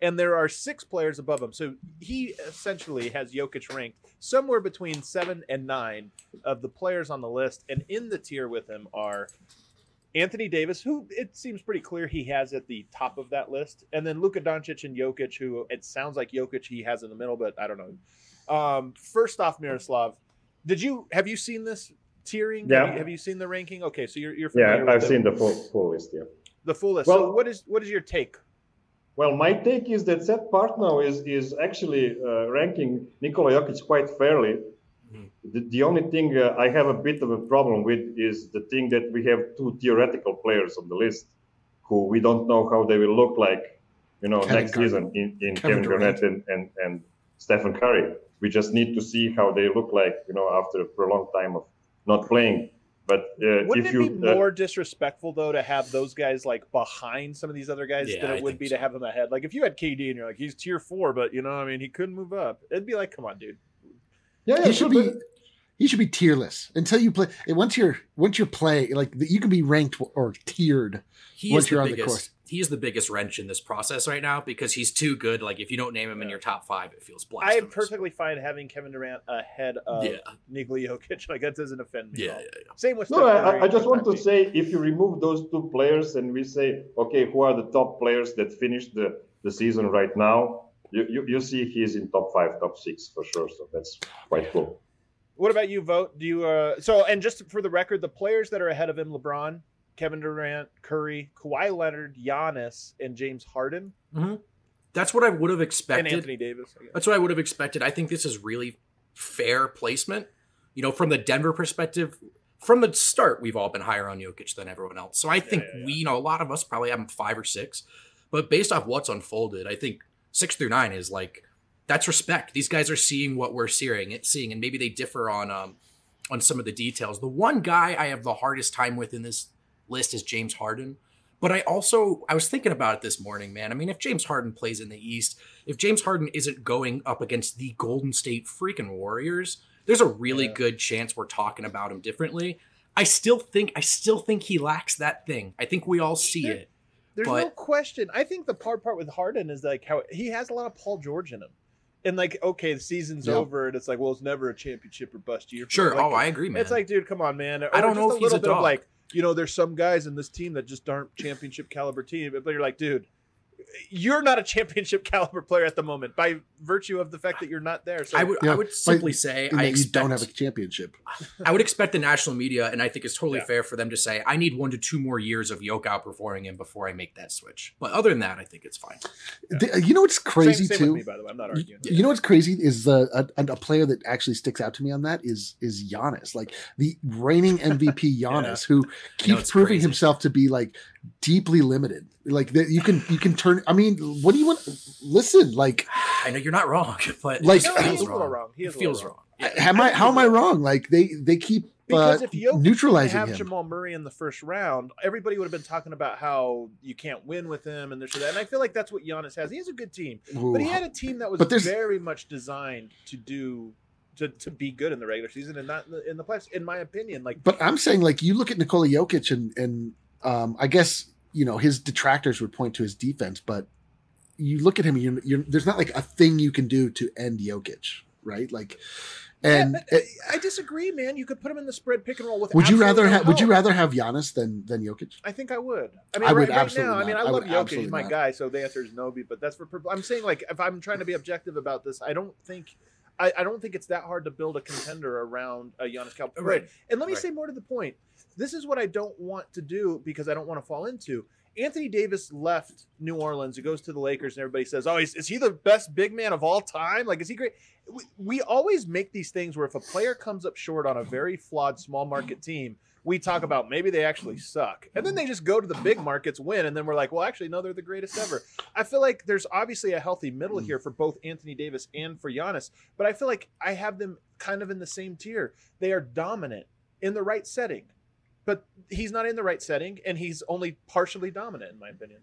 and there are six players above him. So he essentially has Jokic ranked somewhere between seven and nine of the players on the list. And in the tier with him are Anthony Davis, who it seems pretty clear he has at the top of that list. And then Luka Doncic and Jokic, who it sounds like Jokic he has in the middle, but I don't know. Um, first off, Miroslav, did you have you seen this tiering? Yeah. Have you, have you seen the ranking? Okay, so you're you're Yeah, familiar I've with the, seen the full, full list. Yeah. the full list. Well- so what is what is your take? Well, my take is that Seth Partnow is is actually uh, ranking Nikola Jokic quite fairly. Mhm. The, the only thing uh, I have a bit of a problem with is the thing that we have two theoretical players on the list who we don't know how they will look like, you know, Kevin next Garnett. season in, in Kevin Kevin Garnett and, and, and Stephen Curry. We just need to see how they look like, you know, after a prolonged time of not playing. But uh, Wouldn't if it you be uh, more disrespectful though to have those guys like behind some of these other guys Yeah, than I it would think be so. to have them ahead? Like if you had K D and you're like he's tier four, but you know, I mean, he couldn't move up. It'd be like, come on, dude. yeah, yeah, He should sure, be but- he should be tierless until you play. and Once you're once you're play like you can be ranked or tiered. He Once is you're the on the biggest. course. He is the biggest wrench in this process right now because he's too good. Like if you don't name him in your top five, it feels I am blasphemous. perfectly fine having Kevin Durant ahead of Yeah. Nikola Jokic. Like that doesn't offend me. at Yeah, all. yeah, yeah. Same with No, Steph I, Curry, I just want to Kentucky. say if you remove those two players and we say, okay, who are the top players that finished the, the season right now, you, you, you see he's in top five, top six for sure. So that's quite cool. What about you, Vote? Do you uh so and just for the record, the players that are ahead of him, LeBron, Kevin Durant, Curry, Kawhi Leonard, Giannis, and James Harden, That's what I would have and expected. Anthony Davis. I guess. That's what I would have expected. I think this is really fair placement. You know, from the Denver perspective, from the start, we've all been higher on Jokic than everyone else. So I think yeah, yeah. we, you know, a lot of us probably have him five or six. But based off what's unfolded, I think six through nine is like that's respect. These guys are seeing what we're seeing, seeing, and maybe they differ on um on some of the details. The one guy I have the hardest time with in this list is James Harden. But I also, I was thinking about it this morning, man. I mean, if James Harden plays in the East, if James Harden isn't going up against the Golden State freaking Warriors, there's a really Yeah. good chance we're talking about him differently. I still think, I still think he lacks that thing. I think we all see There- it. There's But- no question. I think the hard part with Harden is like how he has a lot of Paul George in him. And like, okay, the season's Yep. over, and it's like, well, it's never a championship or bust year. for Sure. him. Like, Oh, I agree, man. It's like, dude, come on, man. Or I don't just know a if he's little a bit of dog. like, you know, there's some guys in this team that just aren't championship caliber team. But you're like, dude, you're not a championship caliber player at the moment by virtue of the fact that you're not there. So I would, Yeah, I would but- simply say And I that you don't have a expect, championship. I would expect the national media, and I think it's totally Yeah. fair for them to say, I need one to two more years of Yoke outperforming him before I make that switch. But other than that, I think it's fine. The- you know what's crazy same, same too? with me, by the way. I'm not You, arguing. you know what's crazy is the a, a player that actually sticks out to me on that is is Giannis, like the reigning M V P Giannis, who keeps it's proving crazy. himself to be like deeply limited. Like that, you can you can turn. I mean, what do you want? Listen, like, I know you're not wrong, but Like- it No, just he feels is a little wrong. wrong. He It is a little feels wrong. wrong. Yeah. am I how am I wrong? Like they they keep Because uh, if Jokic neutralizing didn't have him. Jamal Murray in the first round, everybody would have been talking about how you can't win with him and this or that. And I feel like that's what Giannis has. He has a good team, but he Ooh. had a team that was But there's- very much designed to do to, to be good in the regular season and not in the, in the playoffs. In my opinion, like But I'm saying, like, you look at Nikola Jokic, and and um, I guess you know his detractors would point to his defense, but you look at him, you're, you're, there's not like a thing you can do to end Jokic, right? Like, and yeah, but uh, I disagree, man. You could put him in the spread pick and roll with. would you absolutely rather no have would you help. rather have Giannis than than Jokic? I think I would. I mean, I would right, right absolutely now, I mean, not. I I love would Jokic. absolutely He's my not. guy, so the answer is no. But that's for. I'm saying, like, if I'm trying to be objective about this, I don't think, I, I don't think it's that hard to build a contender around a Giannis Cal. Right. And let me Right. say more to the point. This is what I don't want to do because I don't want to fall into. Anthony Davis left New Orleans. He goes to the Lakers, and everybody says, "Oh, is, is he the best big man of all time? Like, is he great?" We, we always make these things where if a player comes up short on a very flawed small market team, we talk about maybe they actually suck, and then they just go to the big markets, win, and then we're like, "Well, actually, no, they're the greatest ever." I feel like there's obviously a healthy middle here for both Anthony Davis and for Giannis, but I feel like I have them kind of in the same tier. They are dominant in the right setting. But he's not in the right setting, and he's only partially dominant, in my opinion.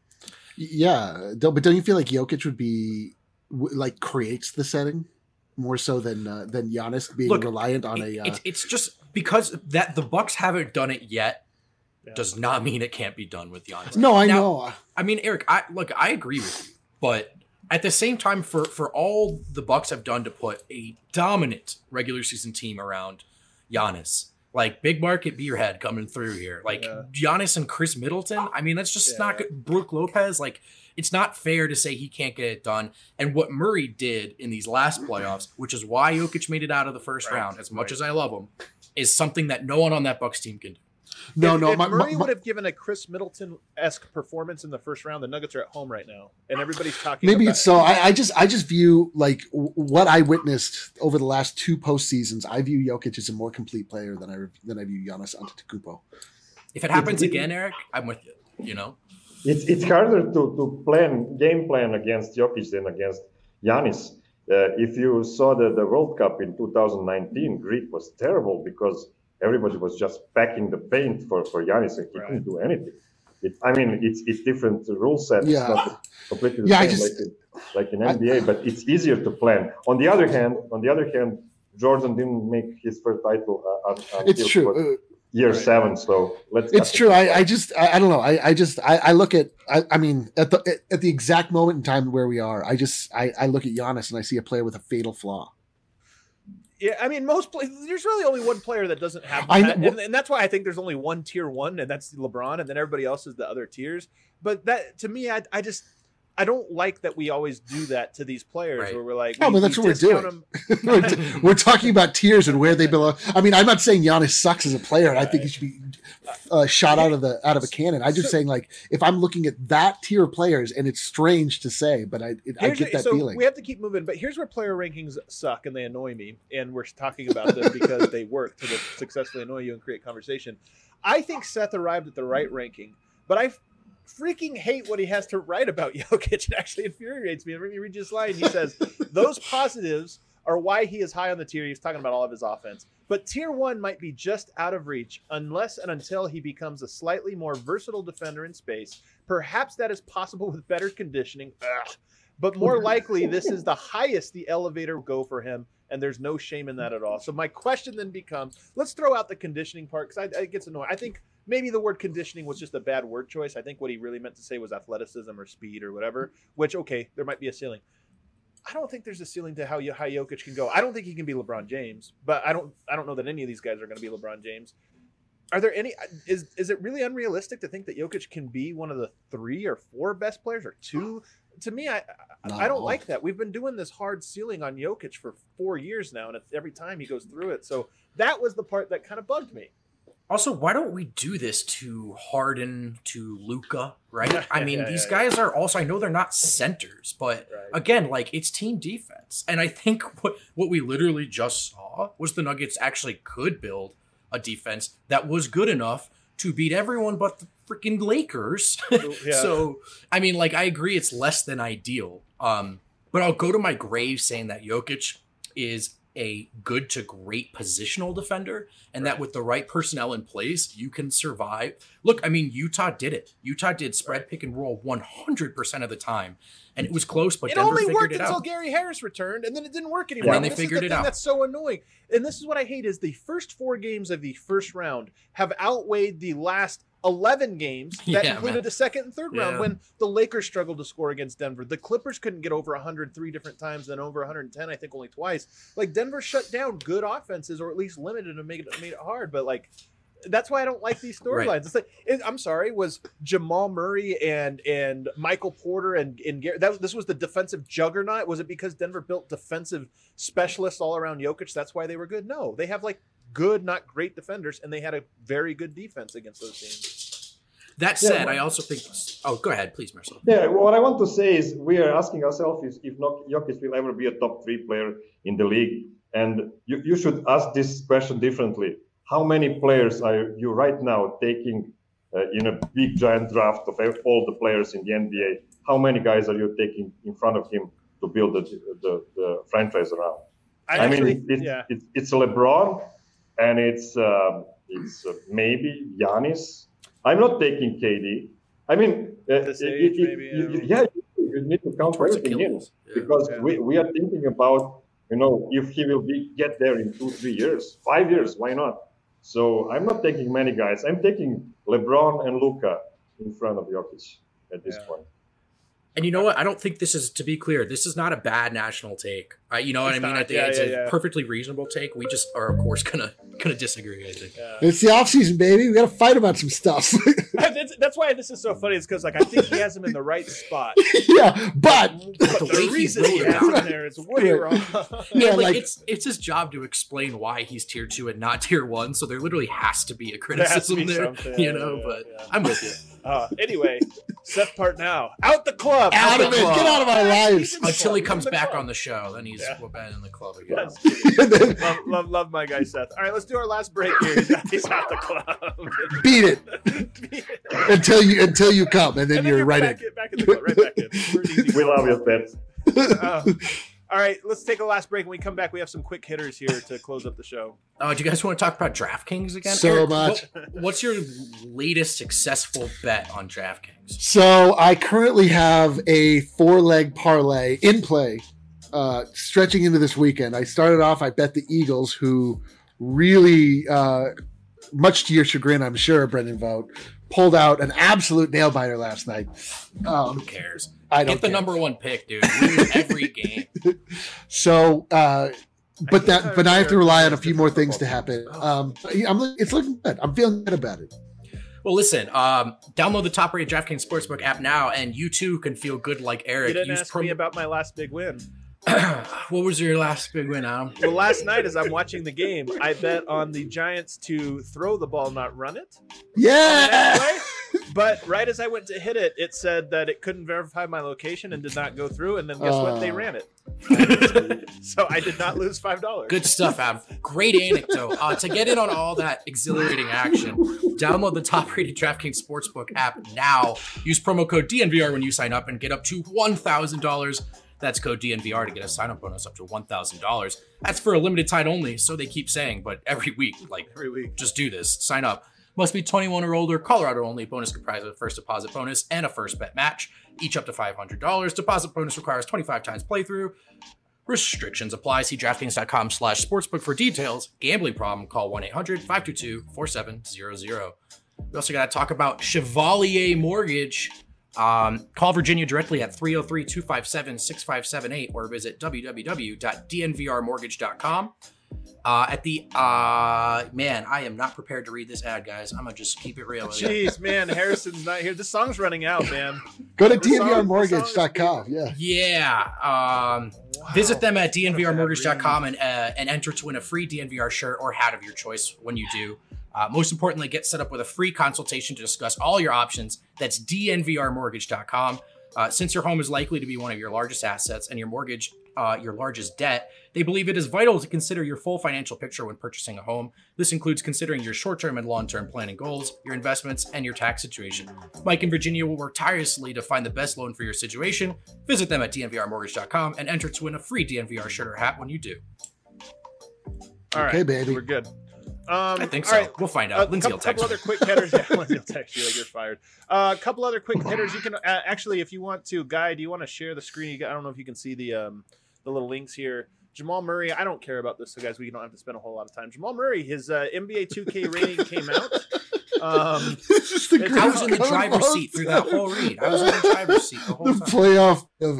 Yeah, don't, but don't you feel like Jokic would be w- like creates the setting more so than uh, than Giannis being Look, reliant on It- a? Uh, it's, it's just because that the Bucks haven't done it yet Yeah. does not mean it can't be done with Giannis. no, I Now, know. I mean, Eric, I look, I agree with you. But at the same time, for for all the Bucks have done to put a dominant regular season team around Giannis, like big market beerhead coming through here, like Yeah. Giannis and Chris Middleton. I mean, that's just Yeah. not good. Brooke Lopez, like it's not fair to say he can't get it done. And what Murray did in these last playoffs, which is why Jokic made it out of the first Right, round, as much right. as I love him, is something that no one on that Bucks team can do. No, if, no, if my, Murray my, would have given a Chris Middleton-esque performance in the first round, the Nuggets are at home right now, and everybody's talking. maybe about it's so. I, I just, I just view like w- what I witnessed over the last two postseasons. I view Jokic as a more complete player than I than I view Giannis Antetokounmpo. If it happens again, Eric, I'm with you. You know, It's it's harder to, to plan game plan against Jokic than against Giannis. Uh, if you saw the, the World Cup in two thousand nineteen, Greek was terrible because everybody was just packing the paint for, for Giannis and he Right. couldn't do anything. It, I mean, it's it's different rule set. Yeah. It's not completely the Yeah, I same just- like, in, like in N B A, but it's easier to plan. On the other hand, on the other hand, Jordan didn't make his first title uh, un- until It's true. what, Uh, year Right. seven. So let's. It's cut true. it. I, I just, I, I don't know. I, I just, I, I look at, I, I mean, at the at the exact moment in time where we are, I just, I, I look at Giannis and I see a player with a fatal flaw. Yeah, I mean, most play- there's really only one player that doesn't have I that, know- and, and that's why I think there's only one tier one, and that's LeBron, and then everybody else is the other tiers. But that to me, I, I just I don't like that we always do that to these players, Right. where we're like, Oh, we- but that's we what we're discount doing. them. we're, t- we're talking about tiers and where they belong. I mean, I'm not saying Giannis sucks as a player. And I think he should be uh, shot out of the out of a cannon. I'm just So- saying, like, if I'm looking at that tier of players, and it's strange to say, but I it, I Here's get where- that so feeling. we have to keep moving, but here's where player rankings suck and they annoy me, and we're talking about them because they work to successfully annoy you and create conversation. I think Seth arrived at the right ranking, but I freaking hate what he has to write about Jokic. It actually infuriates me. Let me read you this line. He says, those positives are why he is high on the tier. He's talking about all of his offense. But tier one might be just out of reach unless and until he becomes a slightly more versatile defender in space. Perhaps that is possible with better conditioning. Ugh. But more likely, this is the highest the elevator will go for him, and there's no shame in that at all. So my question then becomes, let's throw out the conditioning part, because it gets annoying. I think maybe the word conditioning was just a bad word choice. I think what he really meant to say was athleticism or speed or whatever, which, okay, there might be a ceiling. I don't think there's a ceiling to how, how Jokic can go. I don't think he can be LeBron James, but I don't I don't know that any of these guys are going to be LeBron James. Are there any is is it really unrealistic to think that Jokic can be one of the three or four best players or two? To me, I I, I don't No. like that. We've been doing this hard ceiling on Jokic for four years now, and it's every time he goes through it. So that was the part that kind of bugged me. Also, why don't we do this to Harden, to Luca, right? I mean, Yeah, these yeah, guys are also, I know they're not centers, but Right. again, like it's team defense. And I think what, what we literally just saw was the Nuggets actually could build a defense that was good enough to beat everyone but the freaking Lakers. Yeah. So, I mean, like, I agree it's less than ideal. Um, but I'll go to my grave saying that Jokic is a good to great positional defender, and that with the right personnel in place, you can survive. Look, I mean, Utah did it. Utah did spread pick and roll one hundred percent of the time, and it was close, but It Denver only figured worked it until out. Gary Harris returned, and then it didn't work anymore. then they This figured is it the thing out. That's so annoying. And this is what I hate: is the first four games of the first round have outweighed the last eleven games that Yeah, included man. the second and third round. Yeah. When the Lakers struggled to score against Denver, the Clippers couldn't get over one hundred three different times, then over one hundred ten, I think, only twice. Like Denver shut down good offenses, or at least limited and made it made it hard. But like. That's why I don't like these storylines. Right. It's like it, I'm sorry, was Jamal Murray and and Michael Porter and and Gar- that was, this was the defensive juggernaut. Was it because Denver built defensive specialists all around Jokic? That's why they were good. No, they have like good, not great defenders, and they had a very good defense against those teams. That Yeah, said, well- I also think. Oh, go ahead, please, Marcel. Yeah, what I want to say is we are asking ourselves is if not Jokic will ever be a top three player in the league. And you, you should ask this question differently. How many players are you right now taking uh, in a big giant draft of all the players in the N B A? How many guys are you taking in front of him to build the, the, the franchise around? I, I, actually, mean, it's, yeah, it's, it's LeBron and it's, um, it's uh, maybe Giannis. I'm not taking K D. I mean, uh, This it- age, it- maybe, you- yeah. yeah, you, you need to count Towards everything in Achilles. Yeah. because Yeah. we, we are thinking about, you know, if he will be get there in two, three years, five years, why not? So I'm not taking many guys. I'm taking LeBron and Luka in front of Jokic at this Yeah. point. And you know what? I don't think this is, to be clear, this is not a bad national take. Uh, you know what It's I mean? not. I think Yeah, it's yeah, a yeah. perfectly reasonable take. We just are, of course, gonna gonna disagree. I think. Yeah. It's the off season, baby. We got to fight about some stuff. that's, that's why this is so funny. Is because like I think he has him in the right spot, yeah, but but the the, way he reason he wrote has him about there is way wrong. yeah, like, like it's it's his job to explain why he's tier two and not tier one. So there literally has to be a There has to criticism be there, something, you yeah, know. yeah, but yeah. I'm with you. Uh, anyway, Seth Partnow out the club. out of it. club. Get out of our lives. He's in the Until he club. comes He's in the back club. on the show, then he's Yeah. we're back in the club again. That's cute. love, love, love my guy Seth. All right, let's do our last break here. He's out, he's out the club. Beat it until you until you come, and then, And you're, right back in. in. Back in the club. Right back in. We're an easy We love you, Pets. Uh, all right, let's take a last break. When we come back, we have some quick hitters here to close up the show. Oh, do you guys want to talk about DraftKings again? So Eric, much. what- what's your latest successful bet on DraftKings? So I currently have a four leg parlay in play, uh, stretching into this weekend. I started off. I bet the Eagles, who really, uh, much to your chagrin, I'm sure, Brendan Vogt, pulled out an absolute nail biter last night. Um, Who cares? I don't Get the care. number one pick, dude. Lose every game. So, uh, but can't that, but I have to remember rely if on a it's few a more football things to team. happen. Um, I'm, it's looking good. I'm feeling good about it. Well, listen, um, download the top-rated DraftKings Sportsbook app now, and you too can feel good like Eric. You didn't Use ask promo- me about my last big win. What was your last big win, Adam? Well, last night as I'm watching the game, I bet on the Giants to throw the ball, not run it. Yeah. Anyway, but right as I went to hit it, it said that it couldn't verify my location and did not go through. And then guess what? They Oh. ran it. So I did not lose five dollars. Good stuff, Adam. Great anecdote. Uh, to get in on all that exhilarating action, download the top-rated DraftKings Sportsbook app now. Use promo code D N V R when you sign up and get up to one thousand dollars. That's code D N V R to get a sign-up bonus up to one thousand dollars. That's for a limited time only, so they keep saying, but every week, like, Every week. just do this. Sign up. Must be twenty-one or older, Colorado only. Bonus comprised of a first deposit bonus and a first bet match, each up to five hundred dollars. Deposit bonus requires twenty-five times playthrough. Restrictions apply. See DraftKings.com slash sportsbook for details. Gambling problem, call one eight hundred five two two four seven zero zero. We also got to talk about Chevalier Mortgage. Um, call Virginia directly at three oh three, two five seven, six five seven eight or visit w w w dot d n v r mortgage dot com. Uh, at the, uh, man, I am not prepared to read this ad, guys. I'm going to just keep it real with you. Jeez, man, Harrison's not here. This song's running out, man. Go to The D N V R song- the mortgage dot song com. is- Yeah. Yeah. Um, Visit them at d n v r mortgage dot com Wow. and, uh, and enter to win a free D N V R shirt or hat of your choice when you do. Uh, most importantly, get set up with a free consultation to discuss all your options. That's d n v r mortgage dot com. Uh, since your home is likely to be one of your largest assets and your mortgage uh, your largest debt, they believe it is vital to consider your full financial picture when purchasing a home. This includes considering your short-term and long-term planning goals, your investments, and your tax situation. Mike and Virginia will work tirelessly to find the best loan for your situation. Visit them at d n v r mortgage dot com and enter to win a free D N V R shirt or hat when you do. All right, Okay, baby. we're good. Um, I think all so. right. We'll find A out. Lindsay couple, will text couple me. other quick hitters. Yeah, Lindsay will text you like you're fired. Uh, a couple other quick hitters. You can uh, actually, if you want to, Guy, do you want to share the screen? You got, I don't know if you can see the um, the little links here. Jamal Murray. I don't care about this, so guys, we don't have to spend a whole lot of time. Jamal Murray, his uh, N B A two K rating came out. Um, This is the It's- I was in the greatest driver's code seat through that whole read. I was in the driver's seat the whole the time. playoff of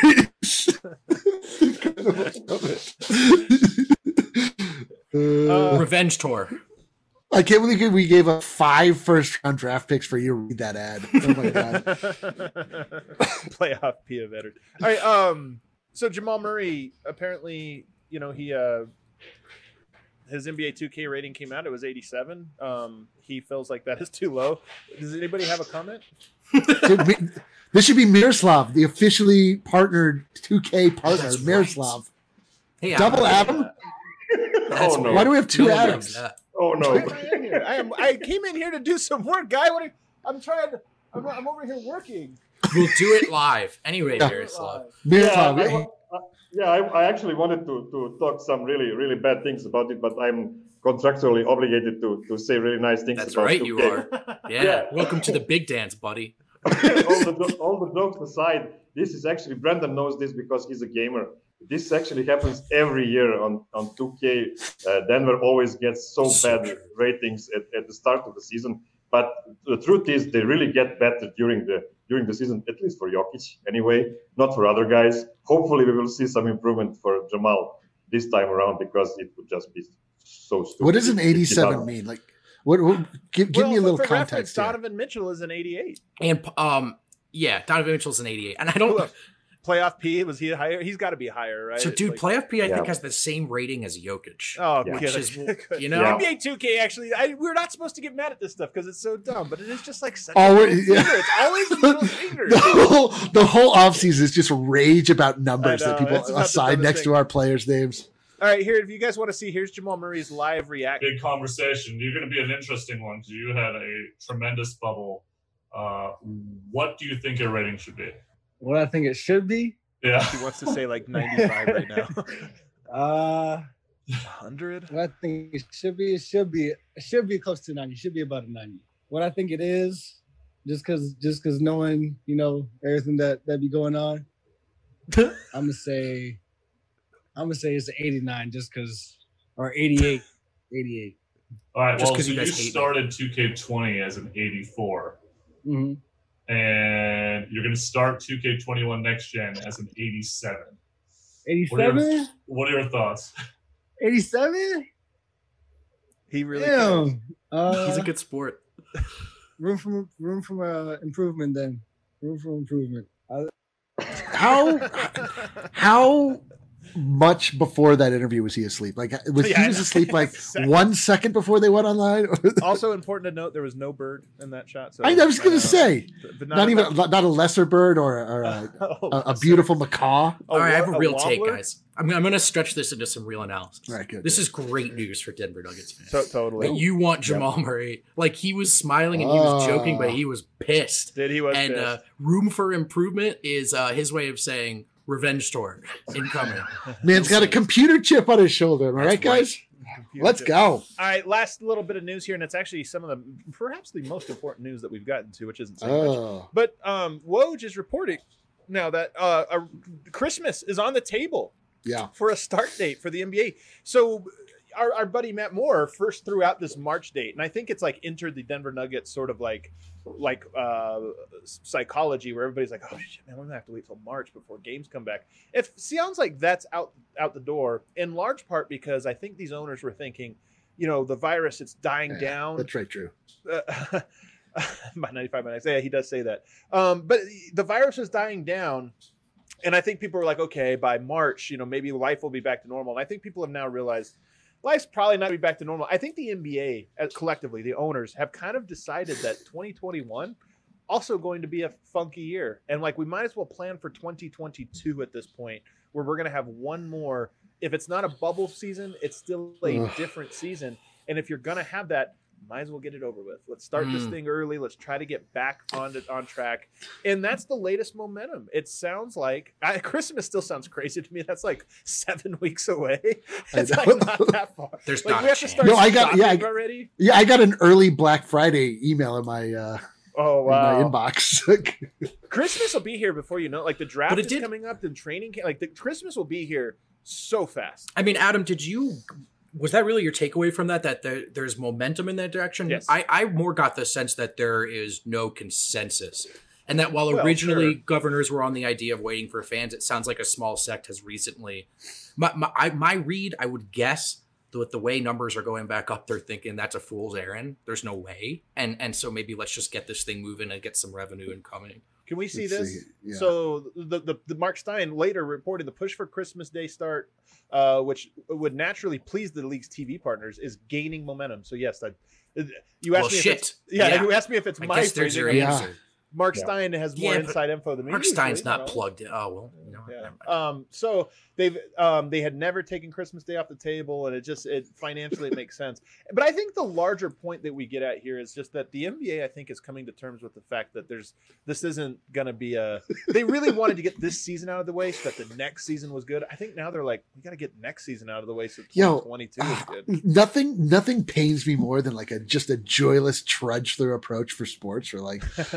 average. Uh, Revenge tour. I can't believe we gave up five first round draft picks for you to read that ad. Oh my god. Playoff P of veteran. All right. Um. So Jamal Murray, apparently, you know, he uh, his N B A two K rating came out. It was eighty-seven. Um. He feels like that is too low. Does anybody have a comment? Dude, me- this should be Miroslav, the officially partnered two K partner. That's right. Miroslav. Hey, Double Adam. Adam? That's Oh, no. weird. Why do we have two No one Adams? likes that. Oh no. I am here. I am. I came in here to do some work, guy. What? Are, I'm trying to. I'm, I'm over here working. We'll do it live. Anyway, Yeah. Miroslav. Yeah, Miroslav. I, wa- uh, yeah, I, I actually wanted to, to talk some really, really bad things about it, but I'm contractually obligated to, to say really nice things That's about right, two you K. are. Yeah. Yeah. Welcome to the big dance, buddy. all, the, all the jokes aside, this is actually, Brandon knows this because he's a gamer. This actually happens every year on, on two K. Uh, Denver always gets so So bad true. ratings at, at the start of the season. But the truth is they really get better during the during the season, at least for Jokic anyway, not for other guys. Hopefully we will see some improvement for Jamal this time around, because it would just be so stupid. What does an if he eighty-seven doesn't. mean? Like, what? what give give well, me a little for reference, context here. Donovan Mitchell is an eighty-eight. And um, yeah, Donovan Mitchell's an eighty-eight, and I don't. Look, playoff P, was he higher? He's got to be higher, right? So, dude, Like- playoff P, I Yeah. think, has the same rating as Jokic. Oh, Yeah. yeah. Which is, you know, Yeah. N B A two K actually, I, we're not supposed to get mad at this stuff because it's so dumb, but it is just like such Oh, a we're- middle yeah. finger. It's always the middle finger. The whole the whole offseason is just rage about numbers I know, that people it's about the assign dumbest next thing. to our players' names. All right, here, if you guys want to see, here's Jamal Murray's live reaction. Big conversation. You're going to be an interesting one because you had a tremendous bubble. Uh, what do you think your rating should be? What I think it should be. Yeah. He wants to say like ninety-five right now. Uh, one hundred? what I think it should be, it should be, it should be close to ninety. It should be about a ninety. What I think it is, just because, just because knowing, you know, everything that that be going on, I'm gonna say, I'm gonna say it's an eighty-nine, just because, or eighty-eight, eighty-eight. All right. Just Well, 'cause so you you guys hate me. started two K twenty as an eighty-four, Mm-hmm. and you're going to start two K twenty-one next gen as an eighty-seven. eighty-seven, What are your thoughts? eighty-seven. He really cares. Damn. Uh, he's a good sport. room for room for uh, improvement. Then room for improvement. I, How how much before that interview was he asleep? Like, was Yeah, I he was know. asleep like Second. one second before they went online? Also important to note, there was no bird in that shot. So I, I was gonna uh, say, but not even not a lesser bird or, or a, Oh, a, a beautiful macaw. All right, I have a wa- real take, wobbler? guys. I'm, I'm going to stretch this into some real analysis. All right, good, This good. is great news for Denver Nuggets fans. So, totally. But you want Jamal Murray. Like, he was smiling and he was joking, but Oh. he was pissed. Did he was and pissed. uh, room for improvement is uh, his way of saying revenge tour incoming. Man's got a computer chip on his shoulder. Am I right, That's right. guys? Let's go. All right, last little bit of news here, and it's actually some of the perhaps the most important news that we've gotten to, which isn't saying much. Oh, But um, Woj is reporting now that uh, a, Christmas is on the table yeah. for a start date for the N B A. So our, our buddy Matt Moore first threw out this March date, and I think it's like entered the Denver Nuggets sort of like like uh, psychology where everybody's like, oh shit, man, we're gonna have to wait till March before games come back. It sounds like that's out out the door in large part because I think these owners were thinking, you know, the virus, it's dying Yeah, down. That's right, Drew. Uh, by ninety-five minutes. Yeah, he does say that. Um, but the virus is dying down. And I think people are like, okay, by March, you know, maybe life will be back to normal. And I think people have now realized life's probably not be back to normal. I think the N B A uh, collectively, the owners have kind of decided that twenty twenty-one also going to be a funky year. And like, we might as well plan for twenty twenty-two at this point, where we're going to have one more. If it's not a bubble season, it's still a Ugh. different season. And if you're going to have that, might as well get it over with. Let's start this Mm. thing early. Let's try to get back on the, on track. And that's the latest momentum. It sounds like I, Christmas still sounds crazy to me. That's like seven weeks away. I It's know. like not that far. There's Like not we a have to chance. start No, I got- yeah, shopping I- already. Yeah, I got an early Black Friday email in my uh, Oh in wow! my inbox. Christmas will be here before you know. Like the draft But it is did- coming up. The training, ca- like the Christmas will be here so fast. I mean, Adam, did you was that really your takeaway from that? That there, there's momentum in that direction? Yes. I, I more got the sense that there is no consensus, and that while Well, originally sure. governors were on the idea of waiting for fans, it sounds like a small sect has recently. My my, I, my read, I would guess. With the way numbers are going back up, they're thinking that's a fool's errand. There's no way, and and so maybe let's just get this thing moving and get some revenue incoming. Can we see Let's this? see, yeah. So the, the the Mark Stein later reported the push for Christmas Day start, uh, which would naturally please the league's T V partners, is gaining momentum. So yes, that you asked Well, me. If shit. it's, yeah, Yeah. you asked me if it's I my guess there's phrasing. your Yeah. answer. Mark Yeah. Stein has more Yeah, but inside info than me. Mark usually, Stein's you not know. plugged in. Oh well, you know. Yeah. never mind. Um, so they've um, they had never taken Christmas Day off the table, and it just it financially it makes sense. But I think the larger point that we get at here is just that the N B A I think is coming to terms with the fact that there's this isn't going to be a. They really wanted to get this season out of the way so that the next season was good. I think now they're like, we got to get next season out of the way so Yo, twenty twenty-two is good. nothing nothing pains me more than like a just a joyless trudge through approach for sports or like, well, we just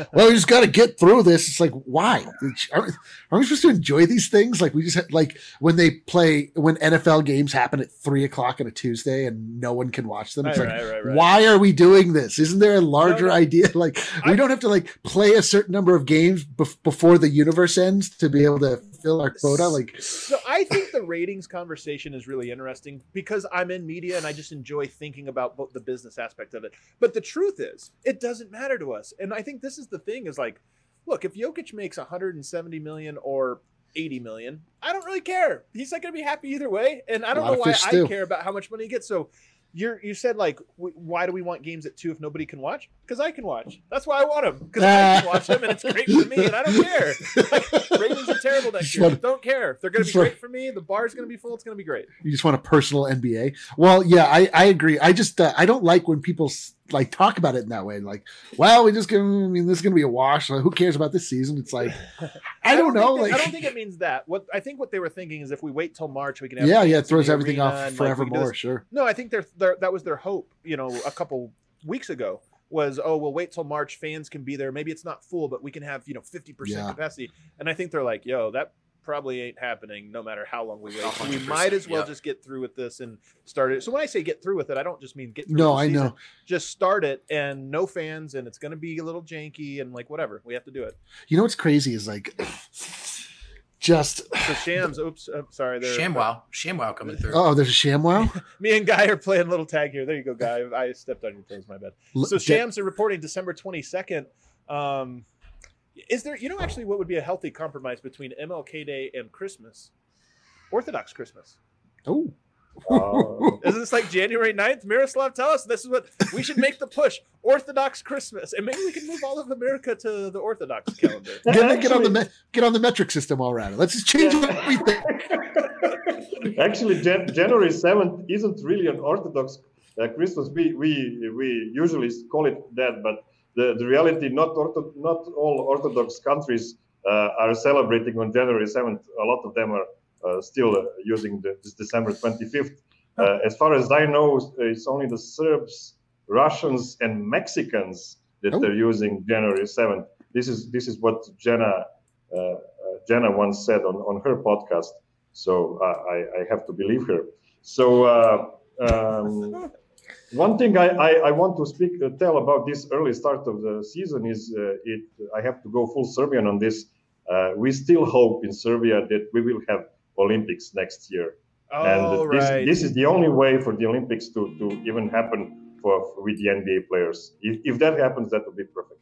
just got to get through this. It's like, why? Aren't, aren't we supposed to enjoy these things? Like we just had, like when they play, when N F L games happen at three o'clock on a Tuesday and no one can watch them. It's Right, like, right, right, right. why are we doing this? Isn't there a larger No, no. idea? Like we I- don't have to like play a certain number of games bef- before the universe ends to be able to fill our quota. Like, So I think the ratings conversation is really interesting because I'm in media and I just enjoy thinking about both the business aspect of it. But the truth is, it doesn't matter to us. And I think this is the thing: is like, look, if Jokic makes one hundred seventy million or eighty million, I don't really care. He's not going to be happy either way, and I don't lot know of why fish I stew. care about how much money he gets. So. You're, you said like, w- why do we want games at two if nobody can watch? Because I can watch. That's why I want them. Because I can watch them and it's great for me, and I don't care. Like, ratings are terrible next Just year. wanna- Don't care. If they're going to just be wanna- great for me, the bar's going to be full. It's going to be great. you just want a personal N B A. Well, yeah, I, I agree. I just uh, I don't like when people s- like talk about it in that way. Like, well, we just gonna. I mean, this is gonna be a wash. Like, who cares about this season? It's like, I don't know. Think that- Like, I don't think it means that. What I think what they were thinking is if we wait till March, we can have yeah, yeah, it fans in throws the everything arena off and, like, we can do forevermore. this. Sure. No, I think they're, they're, that was their hope. You know, a couple weeks ago was, oh, we'll wait till March. Fans can be there. Maybe it's not full, but we can have you know fifty percent Yeah. capacity. And I think they're like, yo, that probably ain't happening. No matter how long we wait, one we hundred percent, might as well yeah. just get through with this and start it. So when I say get through with it, I don't just mean get through. No, with the I season. know. Just start it and no fans, and it's going to be a little janky and like whatever. We have to do it. You know what's crazy is like, just So Shams, oops, I'm sorry. They're, ShamWow, ShamWow coming through. oh, there's a ShamWow. Me and Guy are playing a little tag here. There you go, Guy. I stepped on your toes. My bad. L- So de- Shams are reporting December twenty-second. Um, is there, you know, actually what would be a healthy compromise between M L K Day and Christmas? Orthodox Christmas. Oh, Uh, Isn't this like January ninth? Miroslav, tell us. This is what we should make the push. Orthodox Christmas. And maybe we can move all of America to the Orthodox calendar. get, get on the Actually- me- get on the metric system already. Let's just change everything. Actually, Jan- January seventh isn't really an Orthodox uh, Christmas. We, we we usually call it that, but the, the reality, not ortho- not all Orthodox countries uh, are celebrating on January seventh. A lot of them are uh, still uh, using the, this December twenty-fifth. Uh, as far as I know, it's only the Serbs, Russians, and Mexicans that Oh. are using January seventh. This is this is what Jenna uh, uh, Jenna once said on, on her podcast. So uh, I, I have to believe her. So uh, um, one thing I, I, I want to speak uh, tell about this early start of the season is uh, it. I have to go full Serbian on this. Uh, we still hope in Serbia that we will have Olympics next year, Oh, and this, right. this is the only way for the Olympics to, to even happen for, for with the N B A players. If, if that happens, that would be perfect.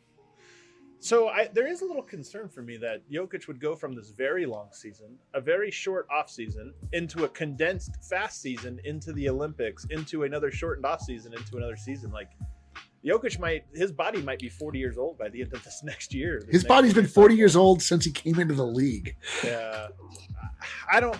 So I, there is a little concern for me that Jokic would go from this very long season, a very short off season, into a condensed fast season, into the Olympics, into another shortened off season, into another season. Like Jokic might, his body might be forty years old by the end of this next year. this His next body's been year. forty years old since he came into the league. Yeah, I don't.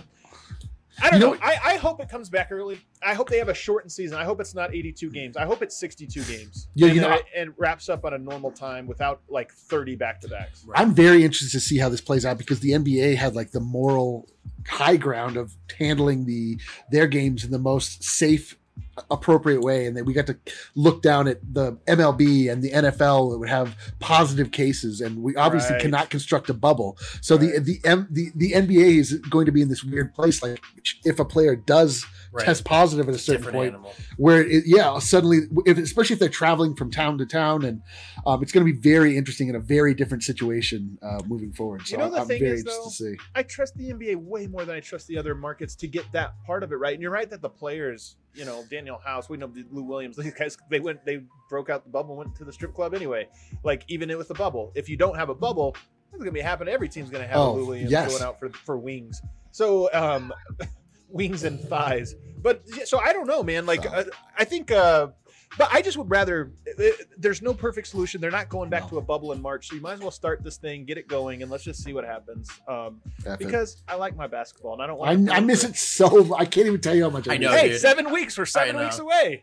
I don't You know. know- I, I hope it comes back early. I hope they have a shortened season. I hope it's not eighty-two games. I hope it's sixty-two games. Yeah, and, you know, uh, and wraps up on a normal time without like thirty back to backs. I'm very interested to see how this plays out because the N B A had like the moral high ground of handling the their games in the most safe, appropriate way, and then we got to look down at the M L B and the N F L that would have positive cases, and we obviously Right. cannot construct a bubble. So the Right. the M, the the N B A is going to be in this weird place. Like if a player does Right. test positive at a certain Different point, animal. where it, yeah, suddenly, if, especially if they're traveling from town to town, and um, it's going to be very interesting in a very different situation uh, moving forward. So You know the I'm thing very is, interested though, to see. I trust the N B A way more than I trust the other markets to get that part of it right. And you're right that the players, you know, Daniel House, we know Lou Williams, these guys, they went, they broke out the bubble, went to the strip club anyway. Like even with the bubble, if you don't have a bubble, it's gonna be happening. Every team's gonna have Oh, a Lou Williams yes. going out for for wings. So um, wings and thighs. But yeah, so I don't know, man. Like So- uh, I think. Uh, But I just would rather. uh, There's no perfect solution. They're not going back No. to a bubble in March, so you might as well start this thing, get it going, and let's just see what happens. Um, F it. because I like my basketball, and I don't want. I, I miss it so. I can't even tell you how much I, I know, miss it. Hey, dude. seven weeks. We're seven I know. weeks away.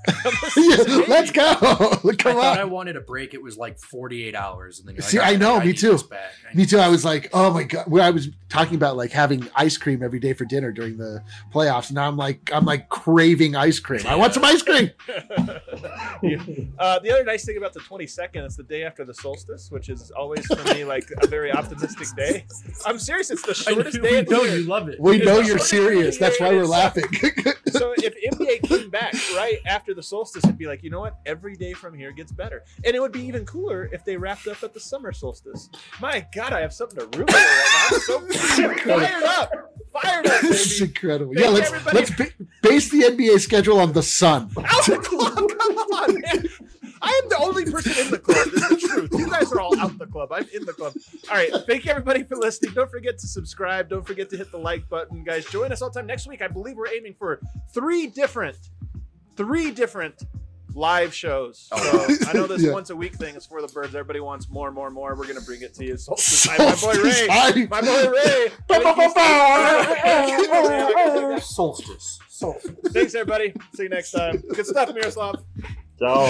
Yeah, let's go. Come I thought on. I wanted a break. It was like forty-eight hours, and then you're like, See, I "Oh, know, me need too. this back. I Me need too. I this." was like, oh my God. Where I was talking about like having ice cream every day for dinner during the playoffs. Now I'm like, I'm like craving ice cream. I want some ice cream. Uh, the other nice thing about the twenty-second, it's the day after the solstice, which is always for me like a very optimistic day. I'm serious. It's the I shortest know, day we of the know year. you love it. We It's know the you're shortest serious. day of That's the why year. we're laughing. So if N B A came back right after the solstice, it'd be like, you know what? Every day from here gets better. And it would be even cooler if they wrapped up at the summer solstice. My God, I have something to root for right now. I'm so fired up. Fired up, This is baby. incredible. Thank Yeah, let's everybody. let's ba- base the N B A schedule on the sun. Out the club, come on, man. I am the only person in the club. This is the truth. You guys are all out the club. I'm in the club. All right. Thank you, everybody, for listening. Don't forget to subscribe. Don't forget to hit the like button, guys. Join us all the time next week. I believe we're aiming for three different, three different live shows. So I know this Yeah. once a week thing is for the birds. Everybody wants more, more, more. We're gonna bring it to you. Solstice time. My boy Ray. Solstice My boy Ray. Solstice. Solstice. Thanks, everybody. See you next time. Good stuff, Miroslav. Ciao.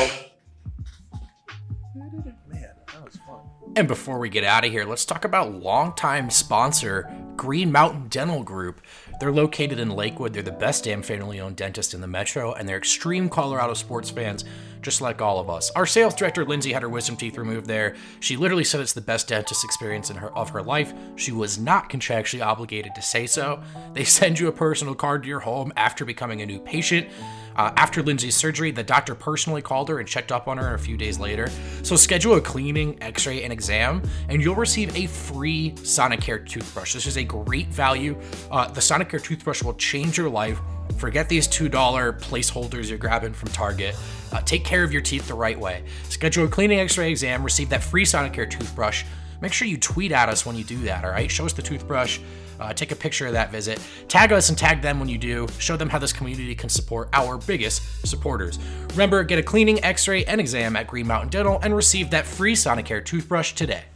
Man, that was fun. And before we get out of here, let's talk about longtime sponsor Green Mountain Dental Group. They're located in Lakewood. They're the best damn family-owned dentist in the metro, and they're extreme Colorado sports fans, just like all of us. Our sales director, Lindsay, had her wisdom teeth removed there. She literally said it's the best dentist experience in her of her life. She was not contractually obligated to say so. They send you a personal card to your home after becoming a new patient. Uh, after Lindsay's surgery, the doctor personally called her and checked up on her a few days later. So schedule a cleaning, x-ray, and exam, and you'll receive a free Sonicare toothbrush. This is a great value. Uh, the Sonicare toothbrush will change your life. Forget these two dollar placeholders you're grabbing from Target. Uh, take care of your teeth the right way. Schedule a cleaning, x-ray, exam, receive that free Sonicare toothbrush. Make sure you tweet at us when you do that, all right? Show us the toothbrush. Uh, take a picture of that visit. Tag us and tag them when you do. Show them how this community can support our biggest supporters. Remember, get a cleaning, x-ray, and exam at Green Mountain Dental and receive that free Sonicare toothbrush today.